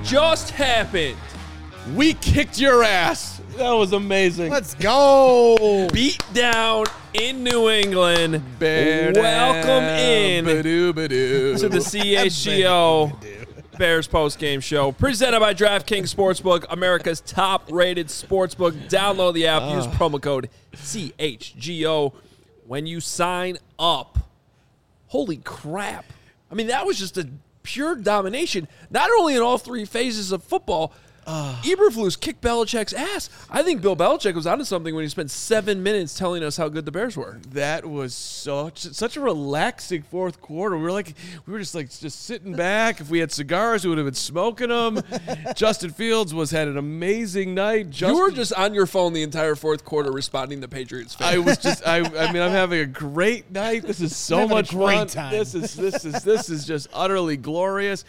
just happened. We kicked your ass. That was amazing. Let's go. Beat down in New England. Welcome in to the CHGO Bears postgame show, presented by DraftKings Sportsbook, America's top-rated sportsbook. Download the app. Use promo code CHGO when you sign up. Holy crap. I mean, that was just a pure domination, not only in all three phases of football. Eberflus kicked Belichick's ass. I think Bill Belichick was onto something when he spent 7 minutes telling us how good the Bears were. That was such a relaxing fourth quarter. We were just sitting back. If we had cigars, we would have been smoking them. Justin Fields had an amazing night. You were just on your phone the entire fourth quarter responding to Patriots fans. I was just I'm having a great night. This is so much fun. Time. This is just utterly glorious.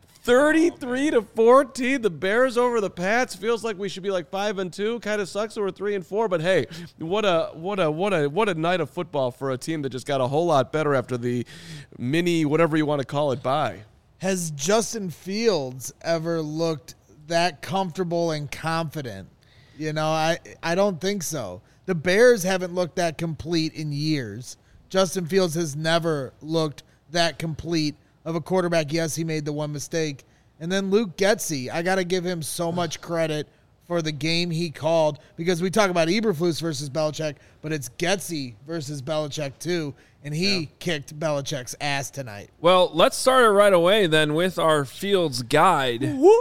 33-14, the Bears over the Pats. Feels like we should be like 5-2. Kind of sucks that we're 3-4, but hey, what a night of football for a team that just got a whole lot better after the mini whatever you want to call it bye. Has Justin Fields ever looked that comfortable and confident? You know, I don't think so. The Bears haven't looked that complete in years. Justin Fields has never looked that complete of a quarterback. Yes, he made the one mistake. And then Luke Getsy, I got to give him so much credit for the game he called, because we talk about Eberflus versus Belichick, but it's Getsy versus Belichick too, and he kicked Belichick's ass tonight. Well, let's start it right away then with our Fields guide.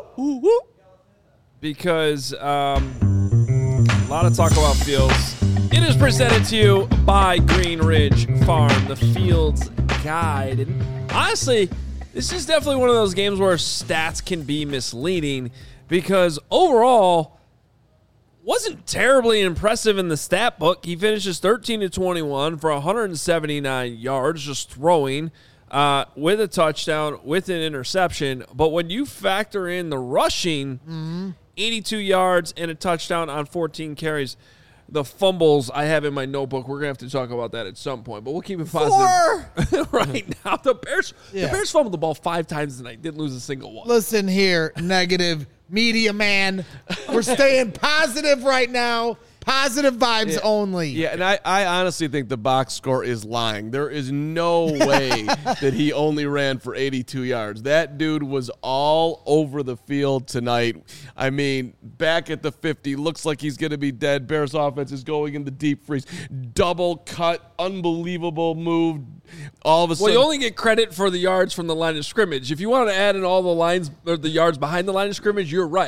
Because a lot of talk about Fields. It is presented to you by Green Ridge Farm, the Fields guide. And honestly, this is definitely one of those games where stats can be misleading, because overall wasn't terribly impressive in the stat book. He finishes 13-21 for 179 yards, just throwing with a touchdown, with an interception. But when you factor in the rushing, 82 yards and a touchdown on 14 carries. The fumbles I have in my notebook, we're going to have to talk about that at some point, but we'll keep it positive. Right now, the Bears fumbled the ball 5 times tonight, didn't lose a single one. Listen here, negative media man. We're staying positive right now. Positive vibes only. Yeah, and I honestly think the box score is lying. There is no way that he only ran for 82 yards. That dude was all over the field tonight. I mean, back at the 50, looks like he's going to be dead. Bears offense is going in the deep freeze. Double cut, unbelievable move. All of a sudden, well, you only get credit for the yards from the line of scrimmage. If you want to add in all the lines or the yards behind the line of scrimmage, you're right.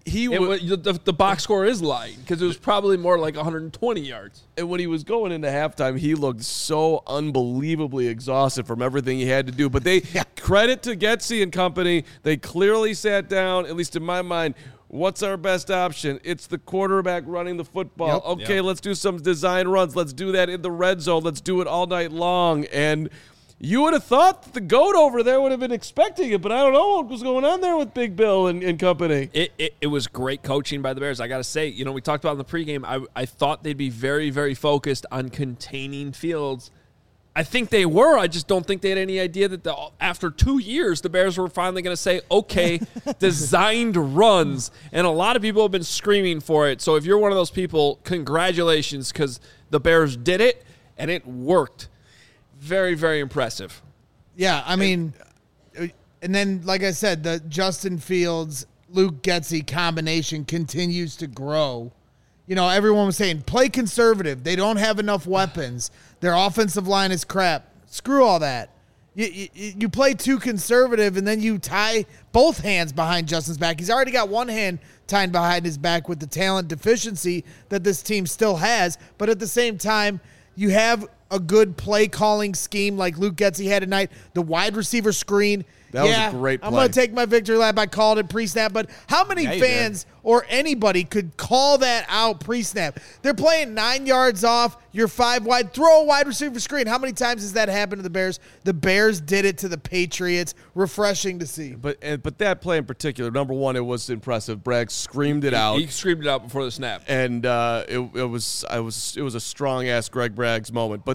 The box score is lying, because it was probably more like 120 yards. And when he was going into halftime, he looked so unbelievably exhausted from everything he had to do. But credit to Getsy and company. They clearly sat down, at least in my mind. What's our best option? It's the quarterback running the football. Let's do some design runs. Let's do that in the red zone. Let's do it all night long. And you would have thought that the GOAT over there would have been expecting it, but I don't know what was going on there with Big Bill and company. It was great coaching by the Bears. I got to say, we talked about in the pregame, I thought they'd be very, very focused on containing Fields. I think they were. I just don't think they had any idea that after 2 years, the Bears were finally going to say, okay, designed runs. And a lot of people have been screaming for it. So if you're one of those people, congratulations, because the Bears did it, and it worked. Very, very impressive. Yeah, I mean, and then, like I said, the Justin Fields, Luke Getsy combination continues to grow. Everyone was saying, play conservative. They don't have enough weapons. Their offensive line is crap. Screw all that. You play too conservative, and then you tie both hands behind Justin's back. He's already got one hand tied behind his back with the talent deficiency that this team still has. But at the same time, you have a good play-calling scheme like Luke Getsy had tonight. The wide receiver screen. That was a great play. I'm going to take my victory lap. I called it pre-snap. But how many fans or anybody could call that out pre-snap? They're playing 9 yards off. You're 5 wide. Throw a wide receiver screen. How many times has that happened to the Bears? The Bears did it to the Patriots. Refreshing to see. But that play in particular, number one, it was impressive. Bragg screamed it out. He screamed it out before the snap. And it was a strong-ass Greg Bragg's moment. But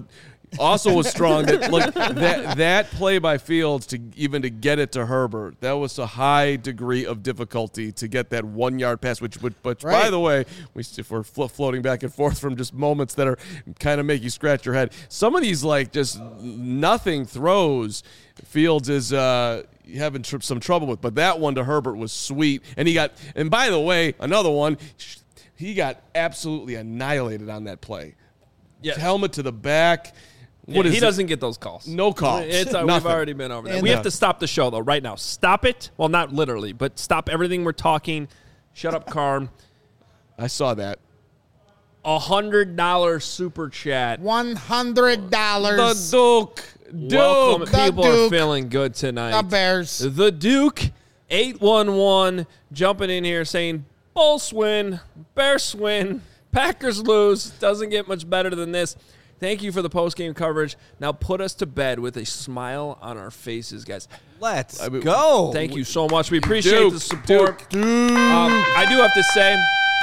also was strong. That play by Fields to get it to Herbert, that was a high degree of difficulty to get that 1 yard pass. Which by the way, if we're floating back and forth from just moments that are kind of make you scratch your head, some of these like just nothing throws, Fields is having some trouble with. But that one to Herbert was sweet, and by the way, another one, he got absolutely annihilated on that play. Yes. Helmet to the back. He doesn't get those calls. No calls. We've already been over that. We have to stop the show, though, right now. Stop it. Well, not literally, but stop everything we're talking. Shut up, Carm. I saw that. $100 super chat. $100. The Duke. Welcome. The People Duke. are feeling good tonight. The Bears. The Duke, 811, jumping in here saying, Bulls win, Bears win, Packers lose. Doesn't get much better than this. Thank you for the post-game coverage. Now put us to bed with a smile on our faces, guys. Let's go. Thank you so much. We appreciate the support. I do have to say,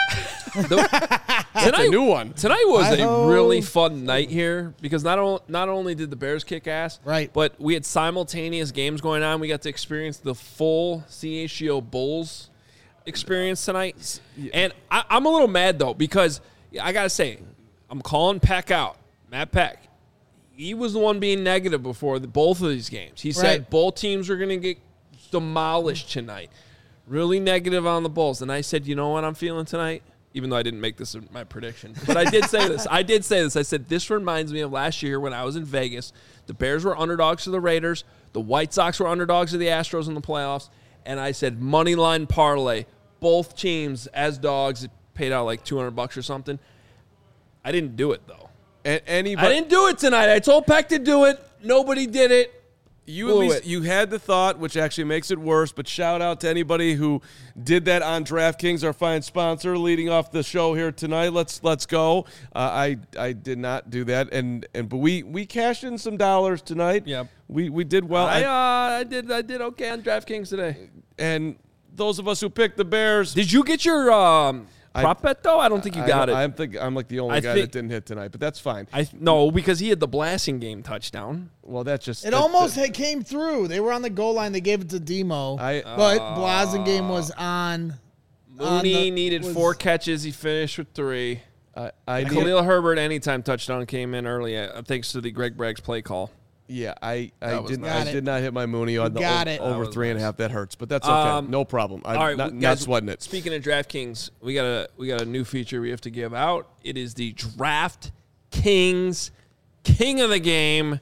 That's a new one. Tonight was a really fun night here because not only did the Bears kick ass, right, but we had simultaneous games going on. We got to experience the full CHGO Bulls experience tonight. And I'm a little mad, though, because I got to say, I'm calling Peck out. Matt Peck, he was the one being negative before both of these games. He said both teams are going to get demolished tonight. Really negative on the Bulls. And I said, you know what I'm feeling tonight? Even though I didn't make this my prediction. But I did say this. I said, this reminds me of last year when I was in Vegas. The Bears were underdogs to the Raiders. The White Sox were underdogs to the Astros in the playoffs. And I said, money line parlay. Both teams as dogs. It paid out like $200 or something. I didn't do it, though. I didn't do it tonight. I told Peck to do it. Nobody did it. You had the thought, which actually makes it worse, but shout out to anybody who did that on DraftKings, our fine sponsor, leading off the show here tonight. Let's go. I did not do that, but we cashed in some dollars tonight. Yeah, we did well. I did okay on DraftKings today. And those of us who picked the Bears, did you get your prop bet, though? I don't think you got it. I'm like the only guy that didn't hit tonight, but that's fine. No, because he had the blasting game touchdown. Well, that's just... almost came through. They were on the goal line. They gave it to Demo. But Blasingame was on. Mooney needed 4 catches. He finished with 3. Khalil Herbert anytime touchdown came in early, thanks to the Greg Braggs play call. Yeah, I did not hit my Mooney on the over 3.5. That hurts, but that's okay. No problem. All right, not sweating it. Speaking of DraftKings, we got a new feature we have to give out. It is the DraftKings King of the Game.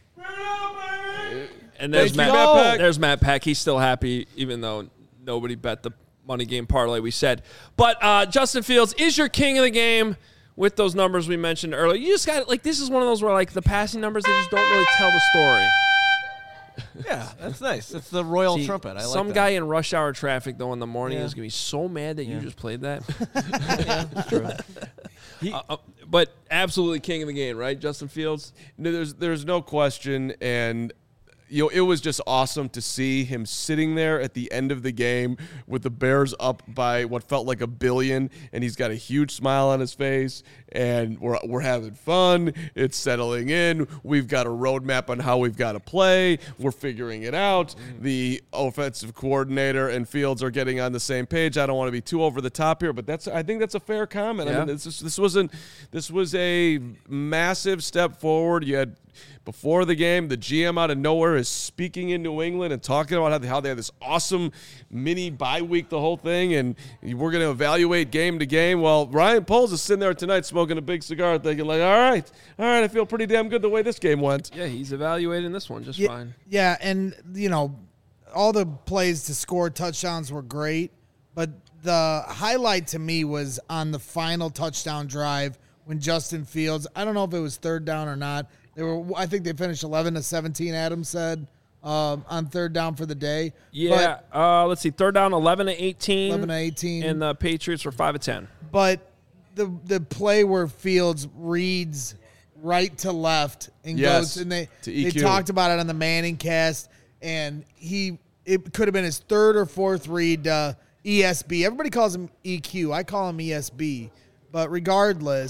And there's Matt Peck. He's still happy, even though nobody bet the money game parlay we said. But Justin Fields is your king of the game. With those numbers we mentioned earlier, you just got this is one of those where the passing numbers, they just don't really tell the story. Yeah, that's nice. It's the royal trumpet. I like some that. guy in rush hour traffic though in the morning is gonna be so mad that you just played that. Yeah, that's true. But absolutely king of the game, right, Justin Fields? No, there's no question, and it was just awesome to see him sitting there at the end of the game with the Bears up by what felt like $1 billion, and he's got a huge smile on his face, and we're having fun. It's settling in. We've got a roadmap on how we've got to play. We're figuring it out. The offensive coordinator and Fields are getting on the same page. I don't want to be too over the top here, but I think that's a fair comment. Yeah. I mean, this was a massive step forward. You had before the game, the GM out of nowhere is speaking in New England and talking about how they have this awesome mini bye week, the whole thing, and we're going to evaluate game to game. Well, Ryan Poles is sitting there tonight smoking a big cigar thinking all right, I feel pretty damn good the way this game went. Yeah, he's evaluating this one just fine. Yeah, and, all the plays to score touchdowns were great, but the highlight to me was on the final touchdown drive when Justin Fields, I don't know if it was third down or not, I think they finished 11-17, Adam said, on third down for the day. Yeah, let's see, third down 11-18. 11-18. And the Patriots were 5-10. But the play where Fields reads right to left and goes, and they talked about it on the Manning cast, and it could have been his third or fourth read ESB. Everybody calls him EQ. I call him ESB. But regardless,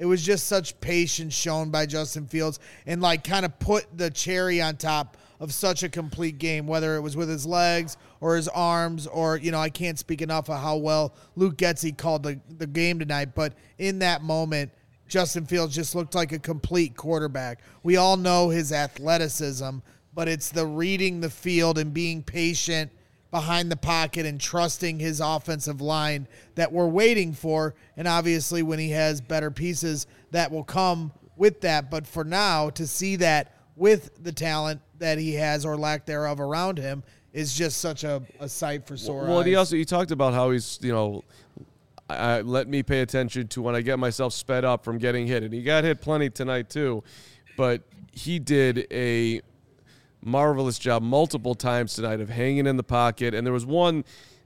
It was just such patience shown by Justin Fields and like kind of put the cherry on top of such a complete game, whether it was with his legs or his arms or, I can't speak enough of how well Luke Getsy called the game tonight. But in that moment, Justin Fields just looked like a complete quarterback. We all know his athleticism, but it's the reading the field and being patient behind the pocket and trusting his offensive line that we're waiting for. And obviously when he has better pieces, that will come with that. But for now, to see that with the talent that he has or lack thereof around him is just such a sight for sore eyes. Well, he talked about how he's, let me pay attention to when I get myself sped up from getting hit. And he got hit plenty tonight too. But he did a marvelous job multiple times tonight of hanging in the pocket. And there was one,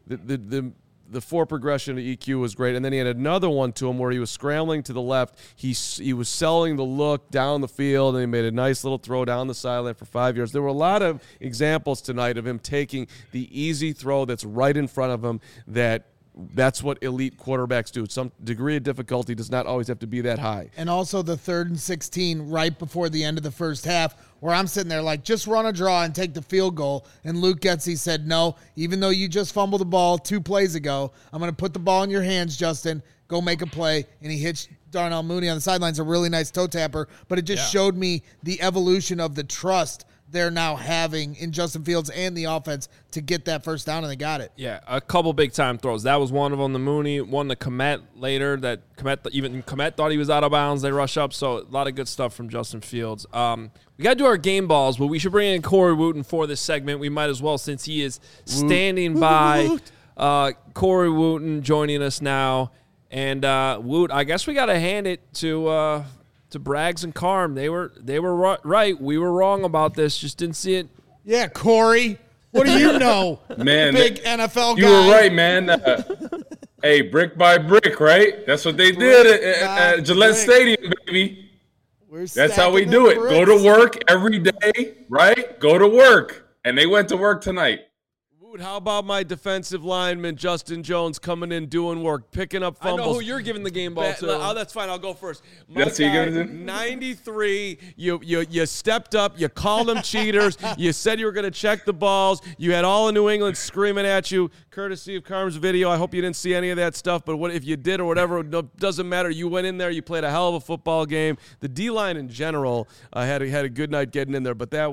the four progression to EQ was great. And then he had another one to him where he was scrambling to the left. He was selling the look down the field, and he made a nice little throw down the sideline for 5 yards. There were a lot of examples tonight of him taking the easy throw that's right in front of him. That's what elite quarterbacks do. Some degree of difficulty does not always have to be that high. And also the 3rd and 16 right before the end of the first half, where I'm sitting there like, just run a draw and take the field goal. And Luke Getsy said, no, even though you just fumbled the ball 2 plays ago, I'm going to put the ball in your hands, Justin. Go make a play. And he hits Darnell Mooney on the sidelines, a really nice toe tapper. But it just showed me the evolution of the trust they're now having in Justin Fields and the offense to get that first down, and they got it. Yeah, a couple big-time throws. That was one of them, the Mooney, one the Kmet later, that Kmet thought he was out of bounds. They rush up, so a lot of good stuff from Justin Fields. We got to do our game balls, but we should bring in Corey Wooten for this segment. We might as well, since he is standing by. Corey Wooten joining us now. And, Woot, I guess we got to hand it to Braggs and Carm. They were right. We were wrong about this. Just didn't see it. Yeah, Corey. What do you know? Man, big NFL guy. You were right, man. Hey, brick by brick, right? That's what they did at Gillette Stadium, baby. That's how we do it. Go to work every day, right? Go to work. And they went to work tonight. How about my defensive lineman, Justin Jones, coming in, doing work, picking up fumbles? I know who you're giving the game ball to. Oh, that's fine. I'll go first. That's who you're going to do? 93, you stepped up. You called them cheaters. You said you were going to check the balls. You had all of New England screaming at you, courtesy of Carm's video. I hope you didn't see any of that stuff, but what if you did or whatever, it doesn't matter. You went in there. You played a hell of a football game. The D-line in general had a good night getting in there, but that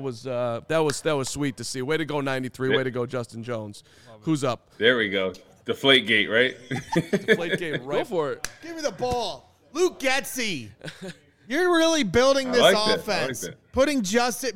was sweet to see. Way to go, 93. Way to go, Justin Jones. Who's up? There we go. Deflate gate, right? Deflate gate, right? Go for it. Give me the ball. Luke Getsy. You're really building this offense. Putting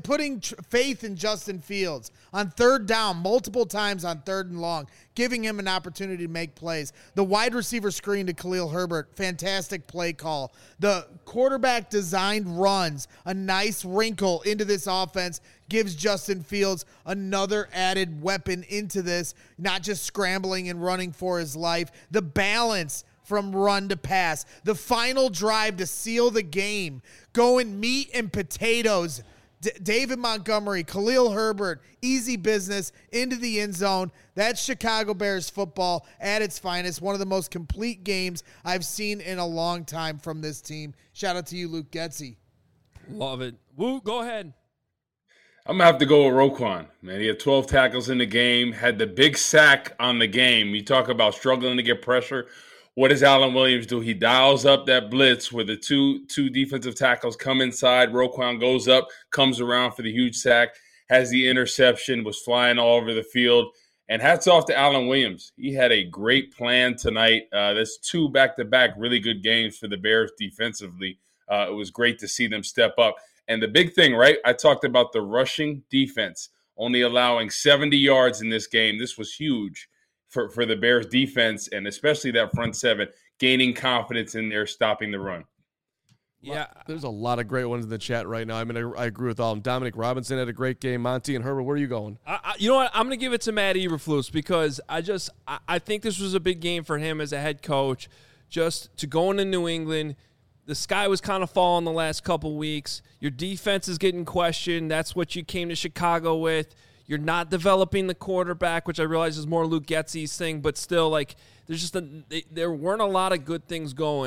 faith in Justin Fields on 3rd down multiple times on 3rd and long, giving him an opportunity to make plays. The wide receiver screen to Khalil Herbert, fantastic play call. The quarterback designed runs, a nice wrinkle into this offense, gives Justin Fields another added weapon into this, not just scrambling and running for his life. The balance from run to pass. The final drive to seal the game. Going meat and potatoes. David Montgomery, Khalil Herbert, easy business into the end zone. That's Chicago Bears football at its finest. One of the most complete games I've seen in a long time from this team. Shout out to you, Luke Getsy. Love it. Woo, go ahead. I'm going to have to go with Roquan, man. He had 12 tackles in the game, had the big sack on the game. You talk about struggling to get pressure. What does Alan Williams do? He dials up that blitz where the two defensive tackles come inside. Roquan goes up, comes around for the huge sack, has the interception, was flying all over the field. And hats off to Alan Williams. He had a great plan tonight. That's 2 back-to-back really good games for the Bears defensively. It was great to see them step up. And the big thing, right, I talked about the rushing defense, only allowing 70 yards in this game. This was huge for the Bears defense, and especially that front seven, gaining confidence in there, stopping the run. Yeah. There's a lot of great ones in the chat right now. I mean, I agree with all of them. Dominic Robinson had a great game. Monty and Herbert, where are you going? You know what? I'm going to give it to Matt Eberflus because I think this was a big game for him as a head coach, just to go into New England. The sky was kind of falling the last couple weeks. Your defense is getting questioned. That's what you came to Chicago with. You're not developing the quarterback, which I realize is more Luke Getsy's thing, but still, like, there weren't a lot of good things going.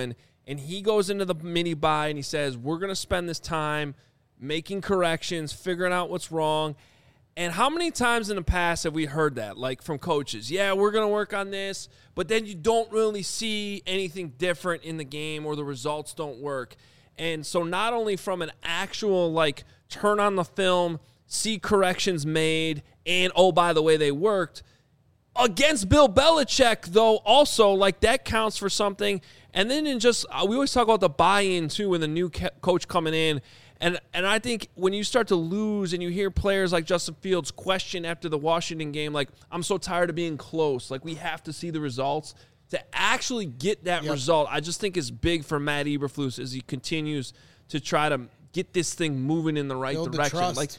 and he goes into the mini bye and he says, we're going to spend this time making corrections, figuring out what's wrong. And how many times in the past have we heard that, like from coaches? Yeah, we're going to work on this, but then you don't really see anything different in the game or the results don't work. And so not only from an actual, like, turn on the film, see corrections made, and, oh, by the way, they worked. Against Bill Belichick, though, also, like, that counts for something. And then we always talk about the buy-in, too, when the new coach coming in. And I think when you start to lose and you hear players like Justin Fields question after the Washington game, like, I'm so tired of being close. Like, we have to see the results. To actually get that result, I just think is big for Matt Eberflus as he continues to try to get this thing moving in the right direction. Like,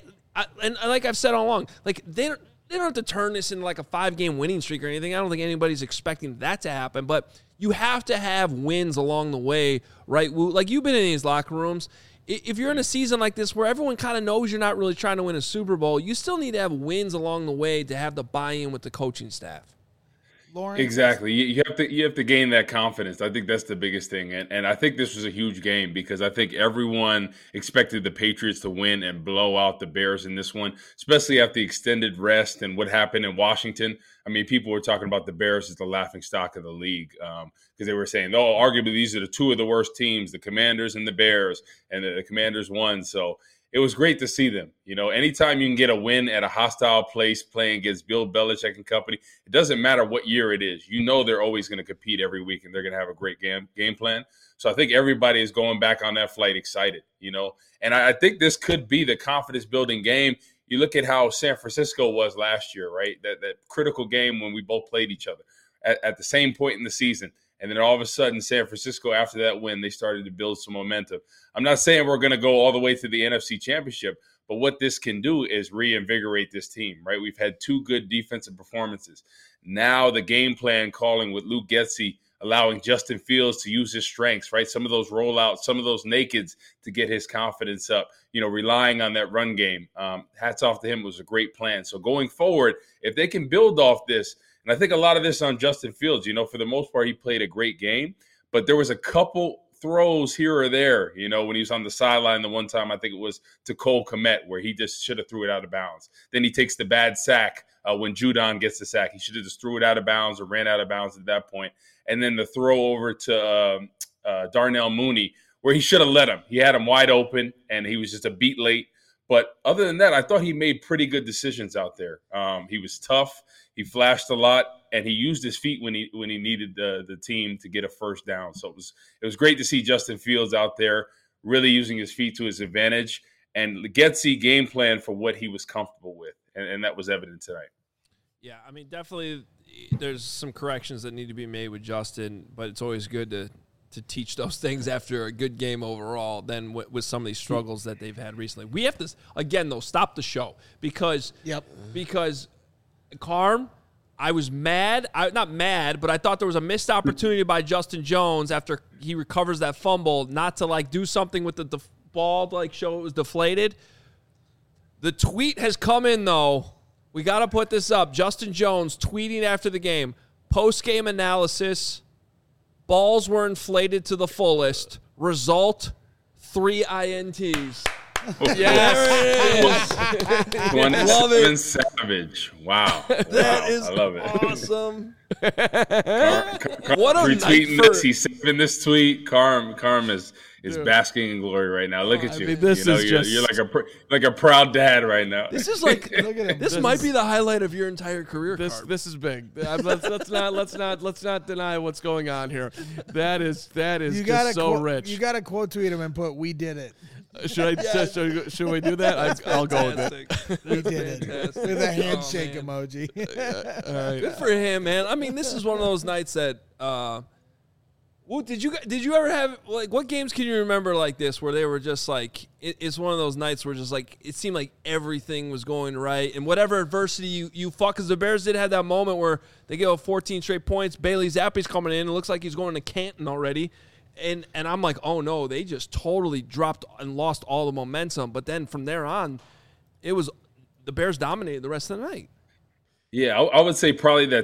and like I've said all along, like, they don't have to turn this into like a 5-game winning streak or anything. I don't think anybody's expecting that to happen, but you have to have wins along the way, right? Like, you've been in these locker rooms. If you're in a season like this where everyone kind of knows you're not really trying to win a Super Bowl, you still need to have wins along the way to have the buy-in with the coaching staff. Lawrence? Exactly. You have to gain that confidence. I think that's the biggest thing. And I think this was a huge game because I think everyone expected the Patriots to win and blow out the Bears in this one, especially after the extended rest and what happened in Washington. I mean, people were talking about the Bears as the laughingstock of the league because they were saying, oh, arguably these are the two of the worst teams, the Commanders and the Bears, and the Commanders won. So it was great to see them. You know, anytime you can get a win at a hostile place playing against Bill Belichick and company, it doesn't matter what year it is. You know they're always going to compete every week and they're going to have a great game plan. So I think everybody is going back on that flight excited, you know. And I think this could be the confidence-building game. You look at how San Francisco was last year, right? That critical game when we both played each other at the same point in the season. And then all of a sudden, San Francisco, after that win, they started to build some momentum. I'm not saying we're going to go all the way to the NFC Championship, but what this can do is reinvigorate this team, right? We've had 2 good defensive performances. Now the game plan calling with Luke Getsy, allowing Justin Fields to use his strengths, right? Some of those rollouts, some of those nakeds to get his confidence up, you know, relying on that run game. Hats off to him. It was a great plan. So going forward, if they can build off this, and I think a lot of this on Justin Fields, you know, for the most part, he played a great game, but there was a couple throws here or there, you know, when he was on the sideline the one time, I think it was to Cole Kmet, where he just should have threw it out of bounds. Then he takes the bad sack when Judon gets the sack. He should have just threw it out of bounds or ran out of bounds at that point. And then the throw over to Darnell Mooney, where he should have let him. He had him wide open, and he was just a beat late. But other than that, I thought he made pretty good decisions out there. He was tough. He flashed a lot, and he used his feet when he needed the team to get a first down. So it was great to see Justin Fields out there really using his feet to his advantage and Getsy game plan for what he was comfortable with, and that was evident tonight. Yeah, I mean, definitely there's some corrections that need to be made with Justin, but it's always good to teach those things after a good game overall than with some of these struggles that they've had recently. We have to, again, though, stop the show because Carm, I was mad. Not mad, but I thought there was a missed opportunity by Justin Jones after he recovers that fumble not to, like, do something with the ball to, like, show it was deflated. The tweet has come in, though. We got to put this up. Justin Jones tweeting after the game, post-game analysis, balls were inflated to the fullest. Result, 3 INTs. Yes. Love it. Savage. Wow. That is I love it. Awesome. What a retweeting night this. He's saving this tweet. Carm is basking in glory right now. Look at you. I mean, this is you're like a proud dad right now. This is like look at him. This might be the highlight of your entire career. This is big. Let's not deny what's going on here. That is just so rich. You got to quote tweet him and put "We did it." Should we do that? I'll go with it. We did it with a handshake emoji. Good for him, man. I mean, this is one of those nights that. Well, did you ever have, like, what games can you remember like this where they were just like it's one of those nights where just like it seemed like everything was going right and whatever adversity you fought, because the Bears did have that moment where they gave up 14 straight points. Bailey Zappe's coming in. It looks like he's going to Canton already. And I'm like, oh, no, they just totally dropped and lost all the momentum. But then from there on, it was the Bears dominated the rest of the night. Yeah, I would say probably that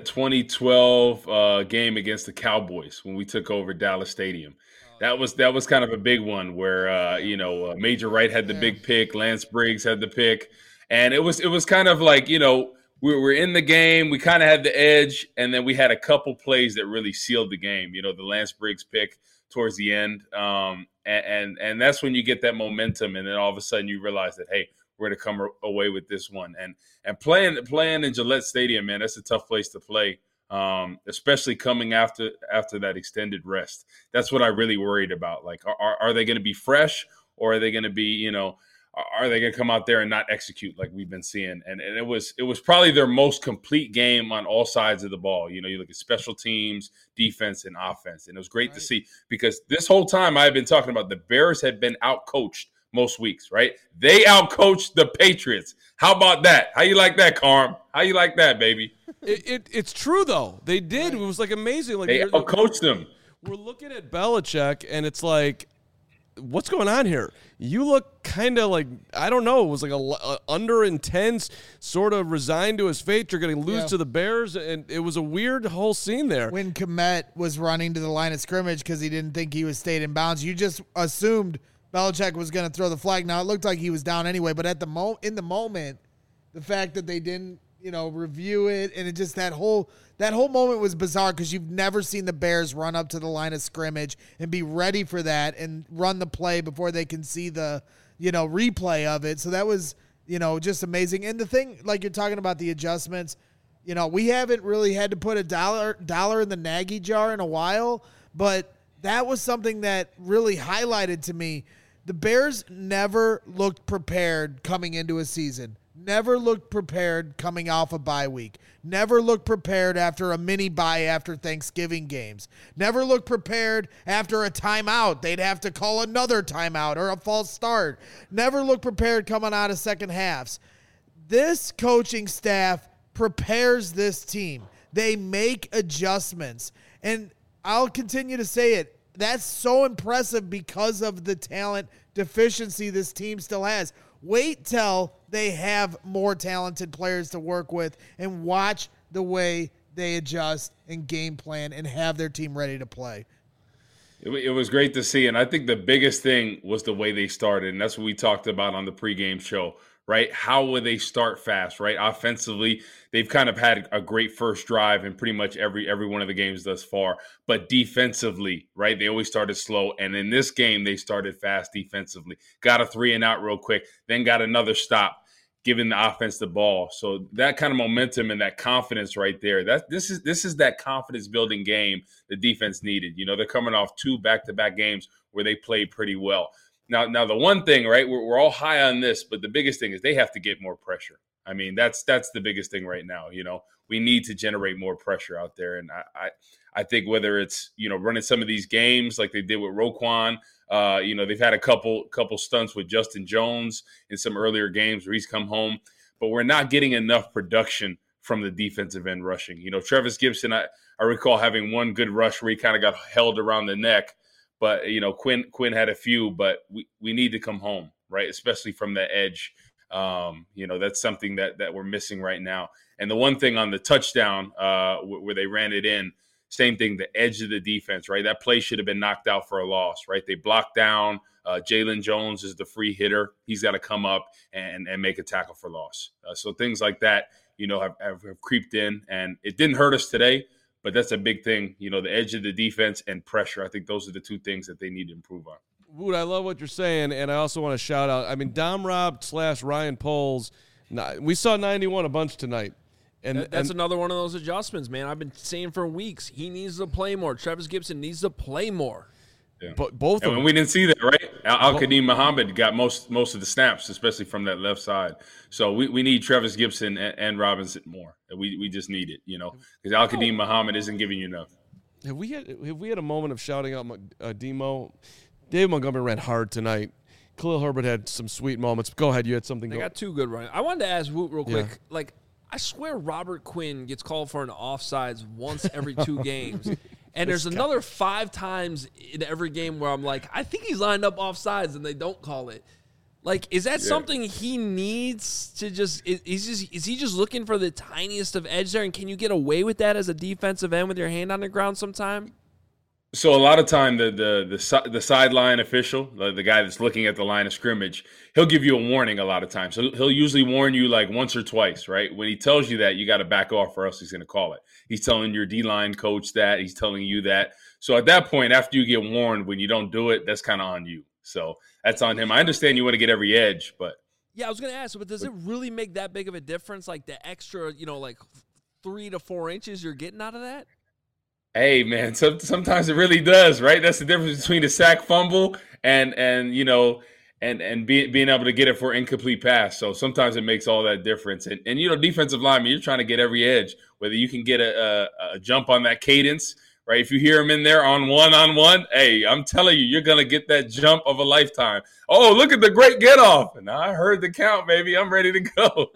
2012 game against the Cowboys when we took over Dallas Stadium. That was kind of a big one where Major Wright had the big pick, Lance Briggs had the pick, and it was kind of like we were in the game, we kind of had the edge, and then we had a couple plays that really sealed the game. The Lance Briggs pick towards the end, and that's when you get that momentum, and then all of a sudden you realize that hey, we're going to come away with this one. And playing in Gillette Stadium, man, that's a tough place to play, especially coming after that extended rest. That's what I really worried about. Like, are they going to be fresh, or are they going to be, are they going to come out there and not execute like we've been seeing? And it was probably their most complete game on all sides of the ball. You look at special teams, defense, and offense. And it was great to see, because this whole time I've been talking about the Bears had been outcoached most weeks, right? They outcoached the Patriots. How about that? How you like that, Carm? How you like that, baby? It's true, though. They did. It was like amazing. Like, they outcoached them. We're looking at Belichick, and it's like, what's going on here? You look kind of like, I don't know, it was like a under intense, sort of resigned to his fate. You're going to lose to the Bears, and it was a weird whole scene there. When Kmet was running to the line of scrimmage because he didn't think he was stayed in bounds, you just assumed Belichick was going to throw the flag. Now, it looked like he was down anyway, but at in the moment, the fact that they didn't, review it, and it just that whole moment was bizarre, because you've never seen the Bears run up to the line of scrimmage and be ready for that and run the play before they can see the, replay of it. So that was, just amazing. And the thing, like you're talking about the adjustments, we haven't really had to put a dollar in the Nagy jar in a while, but that was something that really highlighted to me. The Bears never looked prepared coming into a season. Never looked prepared coming off a bye week. Never looked prepared after a mini bye after Thanksgiving games. Never looked prepared after a timeout. They'd have to call another timeout or a false start. Never looked prepared coming out of second halves. This coaching staff prepares this team. They make adjustments. And I'll continue to say it. That's so impressive because of the talent deficiency this team still has. Wait till they have more talented players to work with and watch the way they adjust and game plan and have their team ready to play. It was great to see, and I think the biggest thing was the way they started, and that's what we talked about on the pregame show, right? How will they start fast, right? Offensively, they've kind of had a great first drive in pretty much every one of the games thus far. But defensively, right, they always started slow. And in this game, they started fast defensively. Got a 3-and-out real quick, then got another stop, giving the offense the ball. So that kind of momentum and that confidence right there, this is that confidence-building game the defense needed. They're coming off 2 back-to-back games where they played pretty well. Now the one thing, right, we're all high on this, but the biggest thing is they have to get more pressure. I mean, that's the biggest thing right now. We need to generate more pressure out there. And I think whether it's, running some of these games like they did with Roquan, they've had a couple stunts with Justin Jones in some earlier games where he's come home, but we're not getting enough production from the defensive end rushing. Travis Gibson, I recall having one good rush where he kind of got held around the neck. But, Quinn had a few, but we need to come home, right, especially from the edge. That's something that we're missing right now. And the one thing on the touchdown where they ran it in, same thing, the edge of the defense, right? That play should have been knocked out for a loss, right? They blocked down. Jalen Jones is the free hitter. He's got to come up and make a tackle for loss. So things like that, have creeped in. And it didn't hurt us today. But that's a big thing, the edge of the defense and pressure. I think those are the two things that they need to improve on. Wood, I love what you're saying, and I also want to shout out, Dom Rob / Ryan Poles, we saw 91 a bunch tonight. And that's another one of those adjustments, man. I've been saying for weeks, he needs to play more. Travis Gibson needs to play more. Yeah. But both of them. We didn't see that, right? Al-Qadim Muhammad got most of the snaps, especially from that left side. So we need Travis Gibson and Robinson more. We just need it, because Al-Qadim Muhammad isn't giving you enough. Have we had a moment of shouting out Demo? Dave Montgomery ran hard tonight. Khalil Herbert had some sweet moments. Go ahead, you had something. They got 2 good runs. I wanted to ask Woot real quick. Yeah. I swear Robert Quinn gets called for an offsides once every 2 games. And there's another 5 times in every game where I'm like, I think he's lined up offsides and they don't call it. Like, is that something he needs to just? Is he just looking for the tiniest of edge there? And can you get away with that as a defensive end with your hand on the ground sometime? So a lot of time, the sideline official, the guy that's looking at the line of scrimmage, he'll give you a warning a lot of times. So he'll usually warn you like once or twice, right? When he tells you that, you got to back off or else he's going to call it. He's telling your D-line coach that. He's telling you that. So at that point, after you get warned, when you don't do it, that's kind of on you. So that's on him. I understand you want to get every edge, but. Yeah, I was going to ask, but does it really make that big of a difference? Like the extra, like 3 to 4 inches you're getting out of that? Hey, man, sometimes it really does, right? That's the difference between a sack fumble and being able to get it for incomplete pass. So sometimes it makes all that difference. And defensive lineman, you're trying to get every edge, whether you can get a jump on that cadence, right? If you hear him in there on one, hey, I'm telling you, you're going to get that jump of a lifetime. Oh, look at the great get off. And I heard the count, baby. I'm ready to go.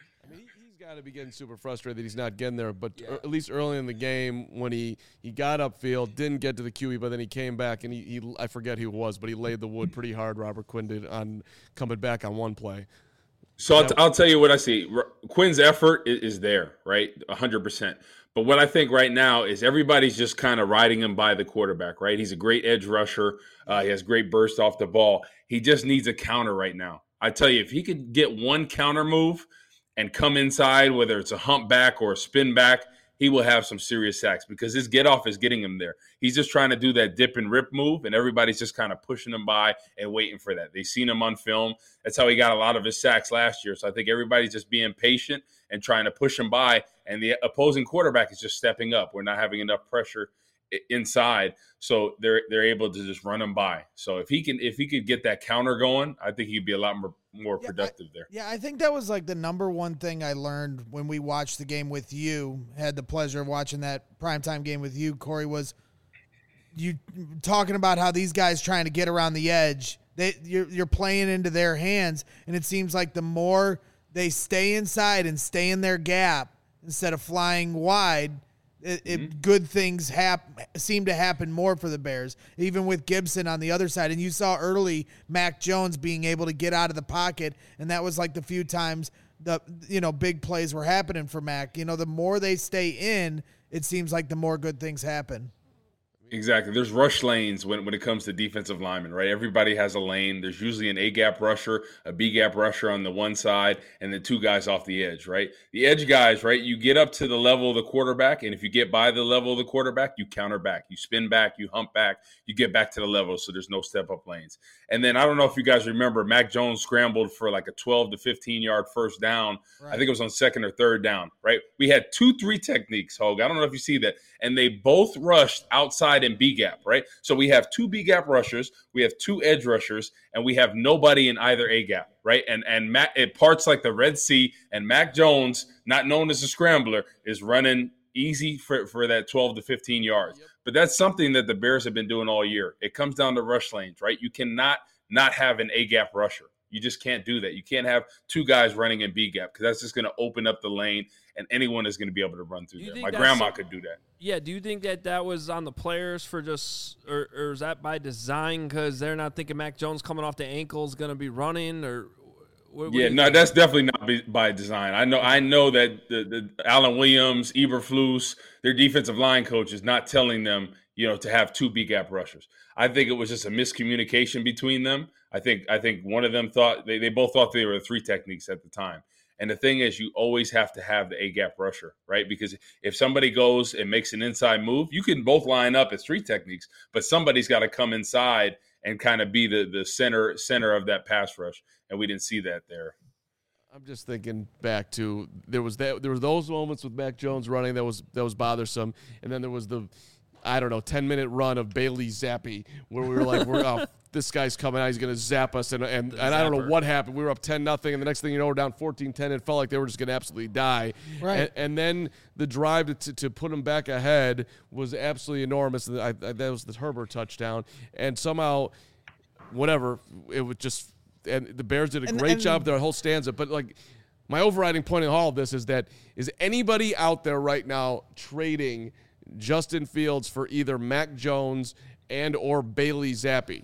To be getting super frustrated that he's not getting there, but at least early in the game when he got upfield, didn't get to the QE, but then he came back and he I forget who it was, but he laid the wood pretty hard. Robert Quinn did on coming back on one play. So I'll tell you what I see. Quinn's effort is there, right, 100%. But what I think right now is everybody's just kind of riding him by the quarterback, right? He's a great edge rusher. He has great burst off the ball. He just needs a counter right now. I tell you, if he could get one counter move and come inside, whether it's a hump back or a spin back, he will have some serious sacks because his get off is getting him there. He's just trying to do that dip and rip move, and everybody's just kind of pushing him by and waiting for that. They've seen him on film. That's how he got a lot of his sacks last year. So I think everybody's just being patient and trying to push him by, and the opposing quarterback is just stepping up. We're not having enough pressure inside, so they're able to just run him by. So if he could get that counter going, I think he'd be a lot more productive there. Yeah, I think that was like the number one thing I learned when we watched the game with you. Had the pleasure of watching that primetime game with you, Corey, was you talking about how these guys trying to get around the edge. You're playing into their hands, and it seems like the more they stay inside and stay in their gap instead of flying wide, good things seem to happen more for the Bears, even with Gibson on the other side. And you saw early Mac Jones being able to get out of the pocket, and that was like the few times big plays were happening for Mac. The more they stay in, it seems like the more good things happen. Exactly. There's rush lanes when it comes to defensive linemen, right? Everybody has a lane. There's usually an A-gap rusher, a B-gap rusher on the one side, and then 2 guys off the edge, right? The edge guys, right, you get up to the level of the quarterback, and if you get by the level of the quarterback, you counter back. You spin back, you hump back, you get back to the level, so there's no step-up lanes. And then I don't know if you guys remember, Mac Jones scrambled for like a 12 to 15-yard first down. Right. I think it was on second or third down, right? We had 2-3 techniques, Hogue. I don't know if you see that. And they both rushed outside in B-gap, right? So we have 2 B-gap rushers, we have 2 edge rushers, and we have nobody in either A-gap, right? And Mac, it parts like the Red Sea, and Mac Jones, not known as a scrambler, is running easy for that 12 to 15 yards. Yep. But that's something that the Bears have been doing all year. It comes down to rush lanes, right? You cannot not have an A-gap rusher. You just can't do that. You can't have 2 guys running in B-gap because that's just going to open up the lane, and anyone is going to be able to run through there. My grandma could do that. Yeah, do you think that was on the players for just or is that by design because they're not thinking Mac Jones coming off the ankle is going to be running? Or no, that's definitely not by design. I know that the Alan Williams, Eberflus, their defensive line coach is not telling them, to have 2 B-gap rushers. I think it was just a miscommunication between them. I think one of them thought they both thought they were 3 techniques at the time. And the thing is, you always have to have the A-gap rusher, right? Because if somebody goes and makes an inside move, you can both line up as 3 techniques, but somebody's got to come inside and kind of be the center of that pass rush. And we didn't see that there. I'm just thinking back to there were those moments with Mac Jones running that was bothersome, and then there was the 10-minute run of Bailey Zappi where we were like, this guy's coming out, he's going to zap us, and I don't know what happened. We were up 10-0, and the next thing you know, we're down 14-10. It felt like they were just going to absolutely die. Right. And then the drive to put them back ahead was absolutely enormous. That was the Herbert touchdown, and somehow, whatever, it was just – and the Bears did a great job their whole stanza. But, my overriding point in all of this is anybody out there right now trading – Justin Fields for either Mac Jones and or Bailey Zappi?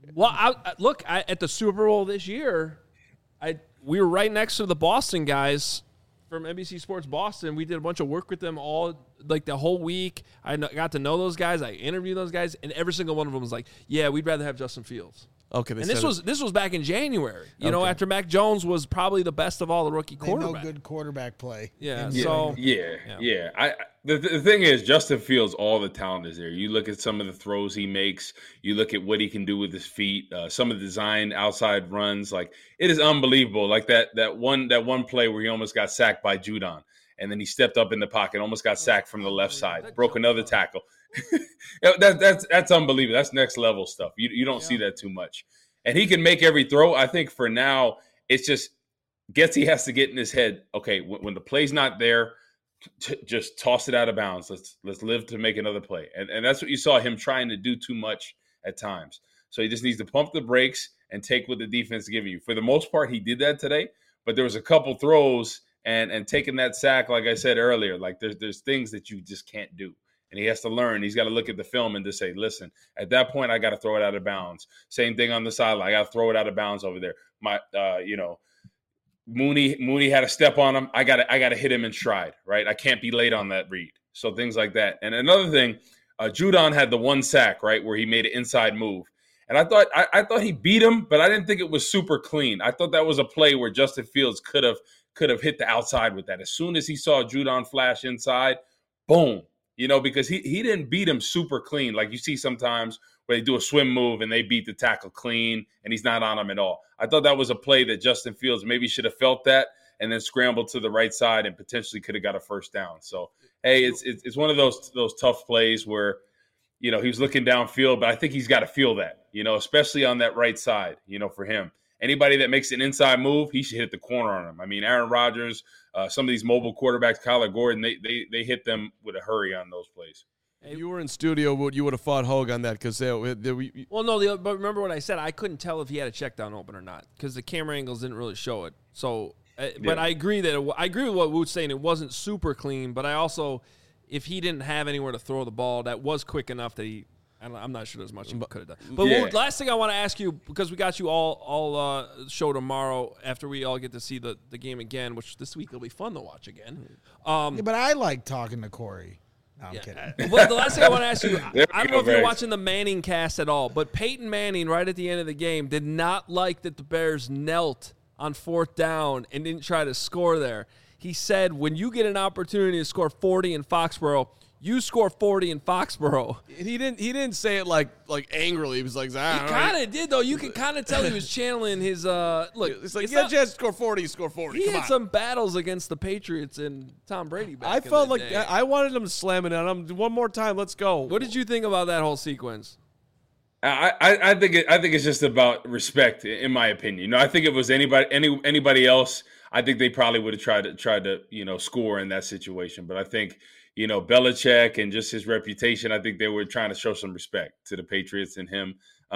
Well, look, at the Super Bowl this year, we were right next to the Boston guys from NBC Sports Boston. We did a bunch of work with them all, like the whole week. I got to know those guys. I interviewed those guys, and every single one of them was like, "Yeah, we'd rather have Justin Fields." Okay, And this was back in January. You know, after Mac Jones was probably the best of all the rookie quarterbacks. No good quarterback play. Yeah. Yeah, So yeah. The thing is, Justin Fields, all the talent is there. You look at some of the throws he makes. You look at what he can do with his feet. Some of the design outside runs, like it is unbelievable. Like that one play where he almost got sacked by Judon, and then he stepped up in the pocket, almost got sacked from the left side, broke another tackle. That's unbelievable. That's next level stuff. You don't see that too much. And he can make every throw. I think for now, it's just Getsy has to get in his head. Okay, when the play's not there, just toss it out of bounds. Let's live to make another play. And that's what you saw him trying to do too much at times. So he just needs to pump the brakes and take what the defense is giving you. For the most part, he did that today. But there was a couple throws and taking that sack, like I said earlier, like there's things that you just can't do. And he has to learn. He's got to look at the film and just say, listen, at that point, I got to throw it out of bounds. Same thing on the sideline. I got to throw it out of bounds over there. Mooney had a step on him. I got to hit him in stride, right? I can't be late on that read. So things like that. And another thing, Judon had the one sack, right, where he made an inside move. And I thought he beat him, but I didn't think it was super clean. I thought that was a play where Justin Fields could have hit the outside with that. As soon as he saw Judon flash inside, boom. Because he didn't beat him super clean. Like you see sometimes where they do a swim move and they beat the tackle clean and he's not on him at all. I thought that was a play that Justin Fields maybe should have felt that and then scrambled to the right side and potentially could have got a first down. So, hey, it's one of those tough plays where, he was looking downfield, but I think he's got to feel that, especially on that right side, for him. Anybody that makes an inside move, he should hit the corner on him. I mean, Aaron Rodgers, some of these mobile quarterbacks, Kyler Gordon, they hit them with a hurry on those plays. If you were in studio, you would have fought Hogue on that because but remember what I said. I couldn't tell if he had a check down open or not because the camera angles didn't really show it. So, but I agree with what Woot's saying. It wasn't super clean, but I also, if he didn't have anywhere to throw the ball, that was quick enough that I'm not sure there's much he could have done. But Woot, last thing I want to ask you, because we got you all show tomorrow after we all get to see the game again, which this week will be fun to watch again. But I like talking to Corey. No, I'm kidding. Well, the last thing I want to ask you, I don't know if you're watching the Manning cast at all, but Peyton Manning, right at the end of the game, did not like that the Bears knelt on 4th down and didn't try to score there. He said, when you get an opportunity to score 40 in Foxborough, you score 40 in Foxborough. He didn't say it like angrily. He was like, he kind of did though. You can kind of tell he was channeling his look. It's like, yeah, just score 40, score 40. He had some battles against the Patriots and Tom Brady back I in felt the like day. I wanted him to slam it on him one more time. Let's go. What did you think about that whole sequence? I think it's just about respect, in my opinion. I think if it was anybody else, I think they probably would have tried to score in that situation. But I think Belichick and just his reputation, I think they were trying to show some respect to the Patriots and him.